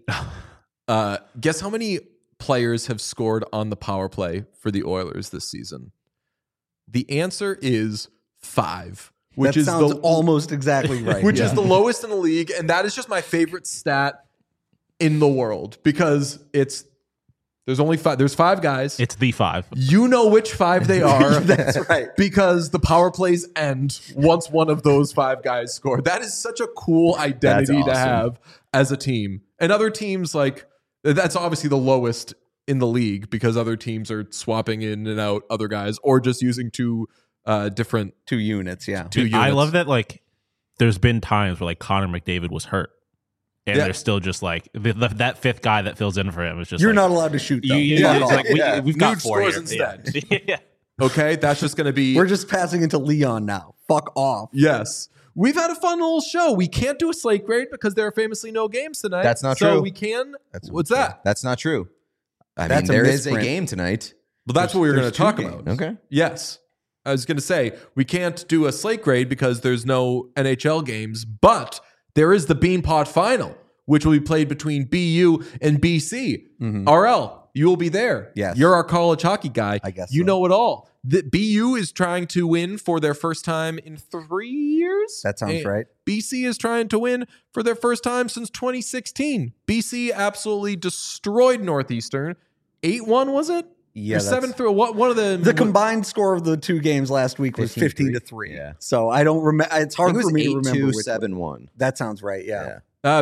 players have scored on the power play for the Oilers this season? The answer is 5, which that is sounds almost exactly right. which is Yeah. the lowest in the league, and that is just my favorite stat in the world because there's only 5. There's 5 guys. It's the 5. You know which 5 they are. That's right. Because the power plays end once one of those 5 guys score. That is such a cool identity That's to awesome. have as a team. And other teams, like, that's obviously the lowest in the league because other teams are swapping in and out other guys or just using 2 different 2 units. Yeah. 2 units. I love that. Like, there's been times where like Connor McDavid was hurt, and Yeah. they're still just like that 5th guy that fills in for him is just. You're like, not allowed to shoot. Though. Yeah, it's like Yeah. we've got Nuge 4 here. scores Yeah. instead. Yeah. Okay, that's just going to be We're just passing into Leon now. Fuck off. yes. We've had a fun little show. We can't do a slate grade because there are famously no games tonight. That's not so true. we can. That's What's that? That's not true. I That's mean, a there is a misprint. game tonight. Well, that's what we were going there's to talk 2 about. games. Okay. Yes. I was going to say, we can't do a slate grade because there's no NHL games, but there is the Beanpot Final, which will be played between BU and BC. RL, you will be there. Yes. You're our college hockey guy. I guess You so. know it all. The BU is trying to win for their first time in 3 years. That sounds And right. BC is trying to win for their first time since 2016. BC absolutely destroyed Northeastern. 8-1, was it? Yeah. Or 7-3. What? One of the The combined score of the 2 games last week was 15-3. Yeah. So I don't remember. It's I hard think it for was me to remember. 8-2, which 7-1. That sounds right. Yeah.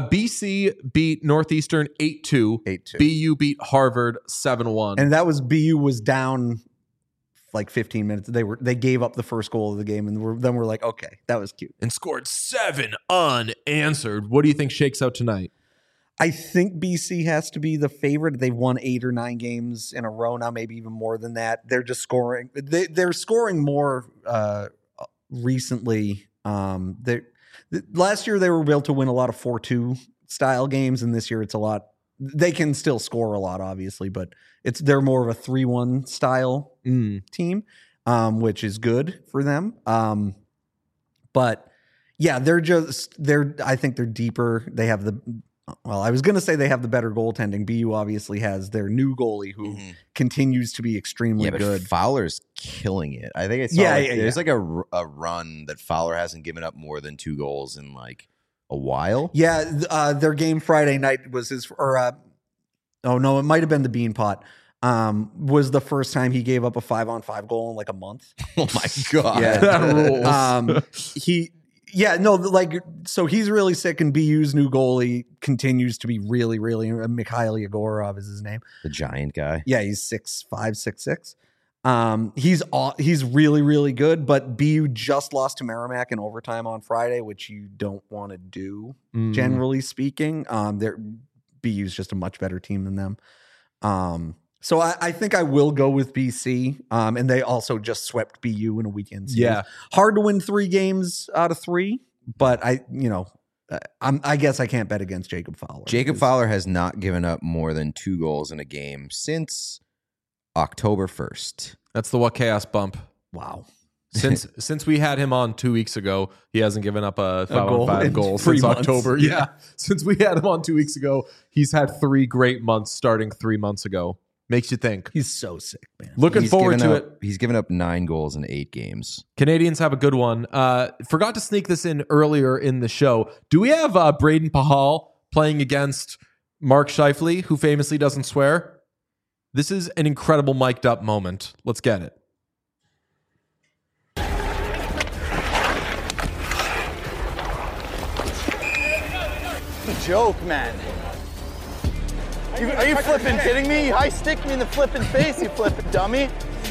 BC beat Northeastern 8-2. 8-2. BU beat Harvard 7-1. And that was BU was down like 15 minutes. They gave up the first goal of the game, and then we're like, okay, that was cute. and scored 7 unanswered. What do you think shakes out tonight? I think BC has to be the favorite. They've won 8 or 9 games in a row now, maybe even more than that. They're just scoring. They're scoring more recently. Last year they were able to win a lot of 4-2 style games, and this year it's a lot. They can still score a lot, obviously, but they're more of a 3-1 style team, which is good for them. But yeah, I think they're deeper. They have I was going to say they have the better goaltending. BU obviously has their new goalie who continues to be extremely But good. Fowler's killing it. I think I saw there's like a run that Fowler hasn't given up more than 2 goals in like a while. Yeah, their game Friday night was it might have been the Beanpot. Was the first time he gave up a 5-on-5 goal in like a month. Oh my god. Yeah. That rules. So he's really sick, and BU's new goalie continues to be really, really. Mikhail Yegorov is his name. The giant guy. Yeah, he's 6'5", 6'6". He's really, really good, but BU just lost to Merrimack in overtime on Friday, which you don't want to do, generally speaking. BU's just a much better team than them. So I think I will go with BC, and they also just swept BU in a weekend series. Yeah. Hard to win 3 games out of 3, but I guess I can't bet against Jacob Fowler. Jacob Fowler has not given up more than 2 goals in a game since October 1st. That's the What Chaos bump. Wow. Since we had him on 2 weeks ago, he hasn't given up a goal 5-on-5 in goal 3 since months. October. Yeah. Since we had him on 2 weeks ago, he's had 3 great months starting 3 months ago. Makes you think. He's so sick, man. Looking forward to it. He's given up 9 goals in 8 games. Canadians have a good one. Forgot to sneak this in earlier in the show. Do we have Braden Pahal playing against Mark Scheifele, who famously doesn't swear. This is an incredible mic'd up moment. Let's get it. Joke, man. Are you flipping kidding me? You high stick me in the flipping face, you flipping dummy.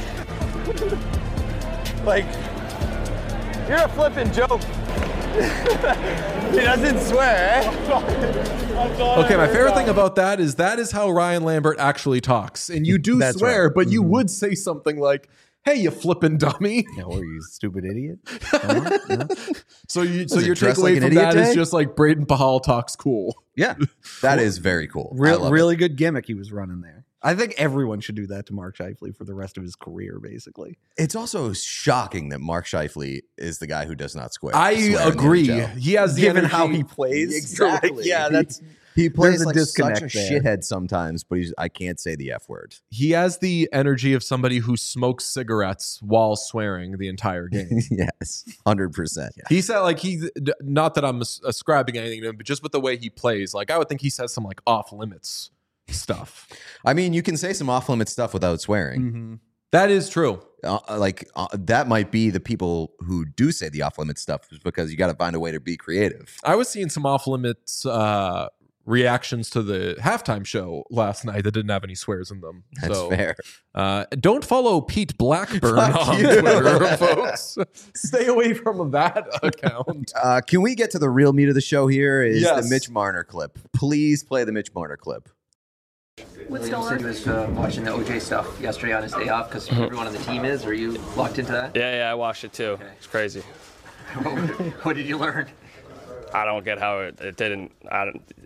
Like, you're a flipping joke. He doesn't swear, eh? Okay, my favorite thing about that is how Ryan Lambert actually talks. And you do That's swear, right. but you would say something like, hey, you flipping dummy. No, or you stupid idiot. So your dress takeaway like an from idiot that is day? just like Braden Pahal talks cool. Yeah. That is very cool. I love it. Really good gimmick he was running there. I think everyone should do that to Mark Scheifele for the rest of his career, basically. It's also shocking that Mark Scheifele is the guy who does not swear. I swear in the agree. NHL. He has the Given energy. how he plays. Exactly. Yeah, that's He plays There's a like disconnect such a there. shithead sometimes, but I can't say the F word. He has the energy of somebody who smokes cigarettes while swearing the entire game. Yes, 100%. He said, like, not that I'm ascribing anything to him, but just with the way he plays, like, I would think he says some like off limits stuff. I mean, you can say some off limit stuff without swearing. That is true. That might be the people who do say the off limit stuff, because you got to find a way to be creative. I was seeing some off limits reactions to the halftime show last night that didn't have any swears in them. That's so, fair. Don't follow Pete Blackburn Fuck on you. Twitter, folks. Stay away from that account. Can we get to the real meat of the show here? Is Yes. the Mitch Marner clip. Please play the Mitch Marner clip. William said he was watching the OJ stuff yesterday on his day off because everyone on the team is. Are you locked into that? Yeah, I watched it too. It's crazy. What did you learn? I don't get how it didn't. I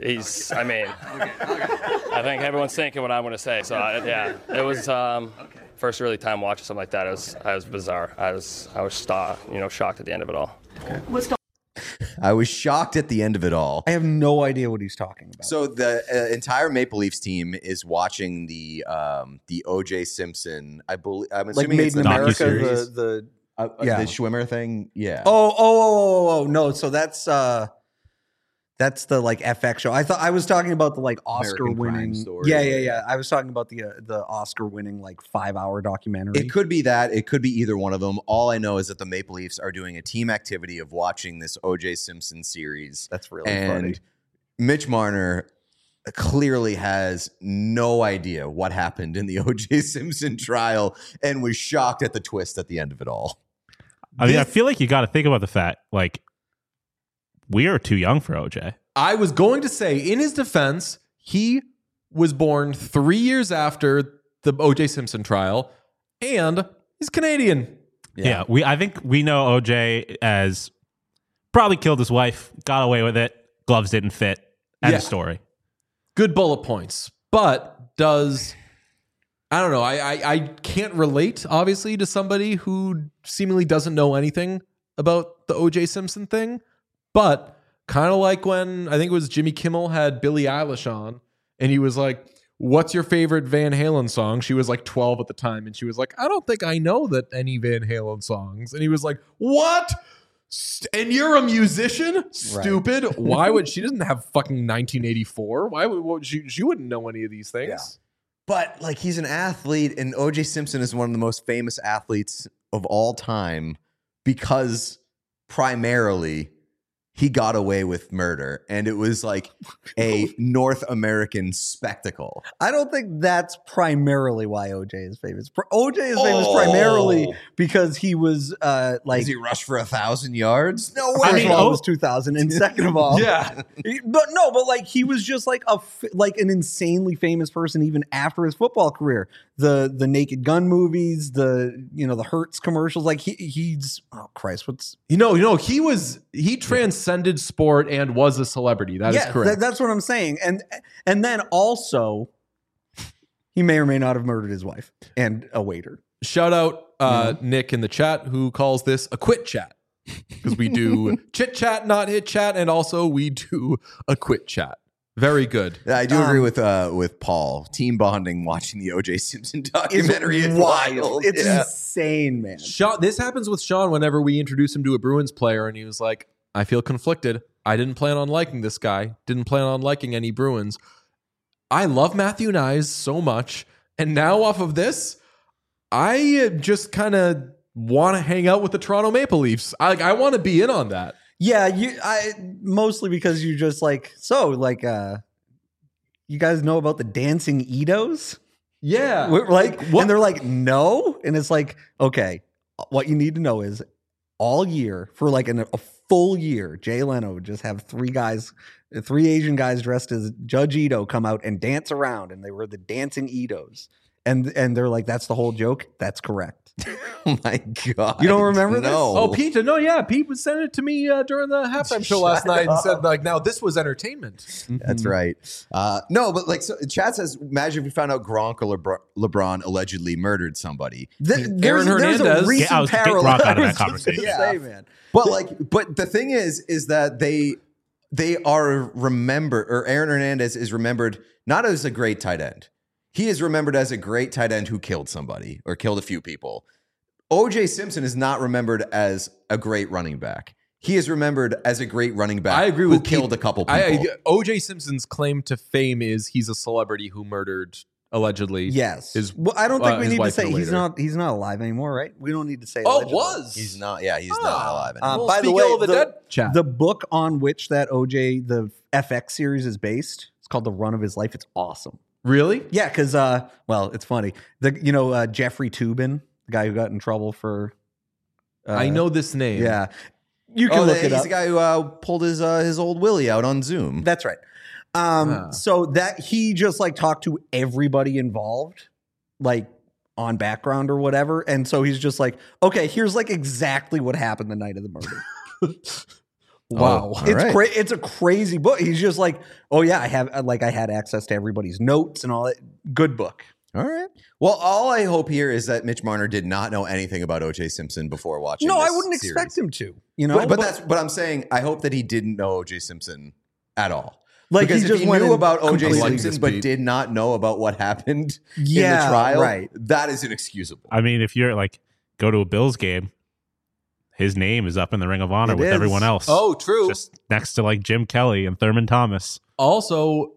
think everyone's thinking what I'm going to say. So it was first really time watching something like that. It was bizarre. I was shocked at the end of it all. I was shocked at the end of it all. I have no idea what he's talking about. So the entire Maple Leafs team is watching the O.J. Simpson. I'm like assuming Made it's in the America, docuseries. the the Schwimmer thing. Yeah. Oh, no. So that's the like FX show. I was talking about the like Oscar American Crime winning. Story. Yeah. I was talking about the Oscar winning like 5-hour documentary. It could be that. It could be either one of them. All I know is that the Maple Leafs are doing a team activity of watching this O.J. Simpson series. That's really and funny. Mitch Marner clearly has no idea what happened in the O.J. Simpson trial and was shocked at the twist at the end of it all. I mean, I feel like you got to think about the fact, like, we are too young for OJ. I was going to say, in his defense, he was born 3 years after the O.J. Simpson trial, and he's Canadian. Yeah, I think we know OJ as probably killed his wife, got away with it, gloves didn't fit, end Yeah. of story. Good bullet points, but I don't know. I can't relate, obviously, to somebody who seemingly doesn't know anything about the O.J. Simpson thing. But kind of like when I think it was Jimmy Kimmel had Billie Eilish on, and he was like, "What's your favorite Van Halen song?" She was like 12 at the time, and she was like, "I don't think I know that any Van Halen songs." And he was like, "What? And you're a musician? Stupid. Why would she doesn't have fucking 1984? Why would she wouldn't know any of these things?" Yeah. But like, he's an athlete, and O.J. Simpson is one of the most famous athletes of all time because primarily he got away with murder, and it was like a North American spectacle. I don't think that's primarily why OJ is famous. OJ is famous primarily because he was like. Does he rush for 1,000 yards? No way. First of all, it was 2000, and second of all, Yeah. but like he was just like an insanely famous person even after his football career. The Naked Gun movies, the Hertz commercials, like he's oh Christ, what's he transcended sport and was a celebrity. That is correct. That's what I'm saying, and then also he may or may not have murdered his wife and a waiter. Shout out Nick in the chat who calls this a quit chat because we do chit chat, not hit chat, and also we do a quit chat. Very good. Yeah, I do agree with Paul. Team bonding watching the O.J. Simpson documentary is wild. It's Yeah. insane, man. This happens with Sean whenever we introduce him to a Bruins player, and he was like, "I feel conflicted. I didn't plan on liking this guy. Didn't plan on liking any Bruins. I love Matthew Nyes so much. And now off of this, I just kind of want to hang out with the Toronto Maple Leafs. I want to be in on that. Yeah, mostly because you just you guys know about the dancing Edos? Yeah. Like, what? and they're like, no. And it's like, okay, what you need to know is all year for like a full year, Jay Leno would just have three Asian guys dressed as Judge Ito come out and dance around, and they were the dancing Edos. And they're like, that's the whole joke. That's correct. Oh my God. You don't remember this? Oh, Pete, no, yeah. Pete was sending it to me during the halftime show last night and said, like, now this was entertainment. That's right. No, but like, so Chad says, imagine if we found out Gronk or LeBron allegedly murdered somebody. There's Hernandez. a recent Get parallel. Gronk out of I that was just conversation. gonna say, man. But the thing is that they are remembered, or Aaron Hernandez is remembered not as a great tight end. He is remembered as a great tight end who killed somebody or killed a few people. O.J. Simpson is not remembered as a great running back. He is remembered as a great running back. I agree who with killed Pete. a couple people. O.J. Simpson's claim to fame is he's a celebrity who murdered allegedly. Yes. I don't think we his need to wife say and a he's waiter. he's not alive anymore, right? We don't need to say. Oh, allegedly. was He's not. Yeah, he's not alive anymore. Well, By the speaking way, of the dead chat. the book on which that OJ the FX series is based, it's called The Run of His Life. It's awesome. Really? Yeah, because well, it's funny. Jeffrey Toobin, the guy who got in trouble for. I know this name. Yeah, you can look it he's up. the guy who pulled his old Willie out on Zoom. That's right. So that he just like talked to everybody involved, like on background or whatever, and so he's just like, okay, here's like exactly what happened the night of the murder. Wow. Oh, It's right. it's a crazy book. He's just like, oh yeah, I had access to everybody's notes and all that. Good book. All right. Well, all I hope here is that Mitch Marner did not know anything about O.J. Simpson before watching. No, this I wouldn't series. expect him to. You know, But I'm saying I hope that he didn't know O.J. Simpson at all. Like, because he if just he went knew in about O.J. completely Simpson but Pete. did not know about what happened in the Yeah, trial, right. that is inexcusable. I mean, if you're like, go to a Bills game, his name is up in the Ring of Honor It with is. everyone else. Oh, true. Just next to like Jim Kelly and Thurman Thomas. Also,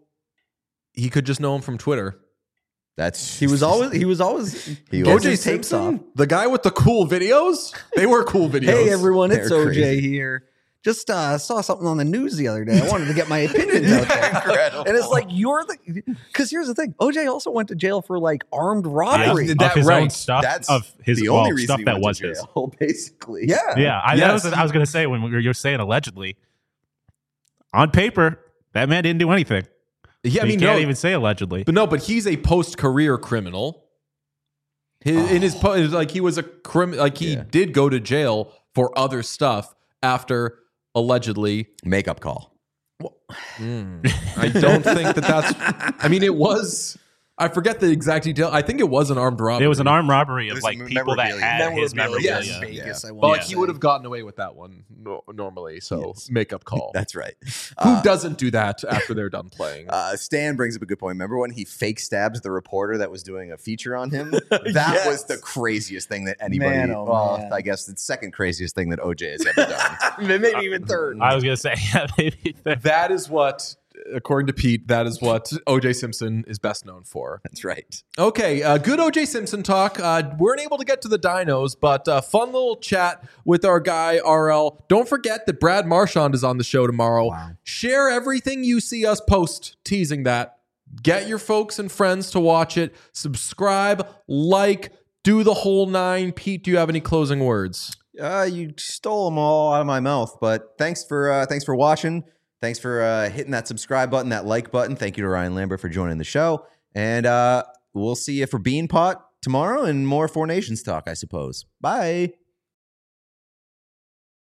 he could just know him from Twitter. That's he was always He getting was. his tapes off. the guy with the cool videos. They were cool videos. Hey everyone, it's They're OJ crazy. here. Just saw something on the news the other day. I wanted to get my opinions out there. Incredible. And it's like because here's the thing. OJ also went to jail for like armed robbery. Yeah. Of That his right. own stuff. That's of his the only reason stuff he that went was to his. jail, basically. Yeah. Yeah, Yes. I was going to say when you're saying allegedly, on paper, that man didn't do anything. Yeah, I you mean, can't no, even say allegedly. but he's a post-career criminal. In his like he was a he did go to jail for other stuff after allegedly. Makeup call. I don't think that's. I mean, it was. I forget the exact detail. I think it was an armed robbery. It was an armed robbery It of was like people that memorabilia. had his Memorabilia. memorabilia. Yes. Vegas, I But want like to he say. would have gotten away with that one normally. So makeup call. That's right. Who doesn't do that after they're done playing? Stan brings up a good point. Remember when he fake stabbed the reporter that was doing a feature on him? That was the craziest thing that anybody. Man, oh, man. I guess the second craziest thing that OJ has ever done. Maybe even third. I was going to say, yeah, maybe. That is what, according to Pete, that is what O.J. Simpson is best known for. That's right. Okay, good O.J. Simpson talk. Weren't able to get to the dinos, but fun little chat with our guy, RL. Don't forget that Brad Marchand is on the show tomorrow. Wow. Share everything you see us post, teasing that. Get your folks and friends to watch it. Subscribe, like, do the whole nine. Pete, do you have any closing words? You stole them all out of my mouth, but thanks for watching. Thanks for hitting that subscribe button, that like button. Thank you to Ryan Lambert for joining the show. And we'll see you for Bean Pot tomorrow and more Four Nations talk, I suppose. Bye.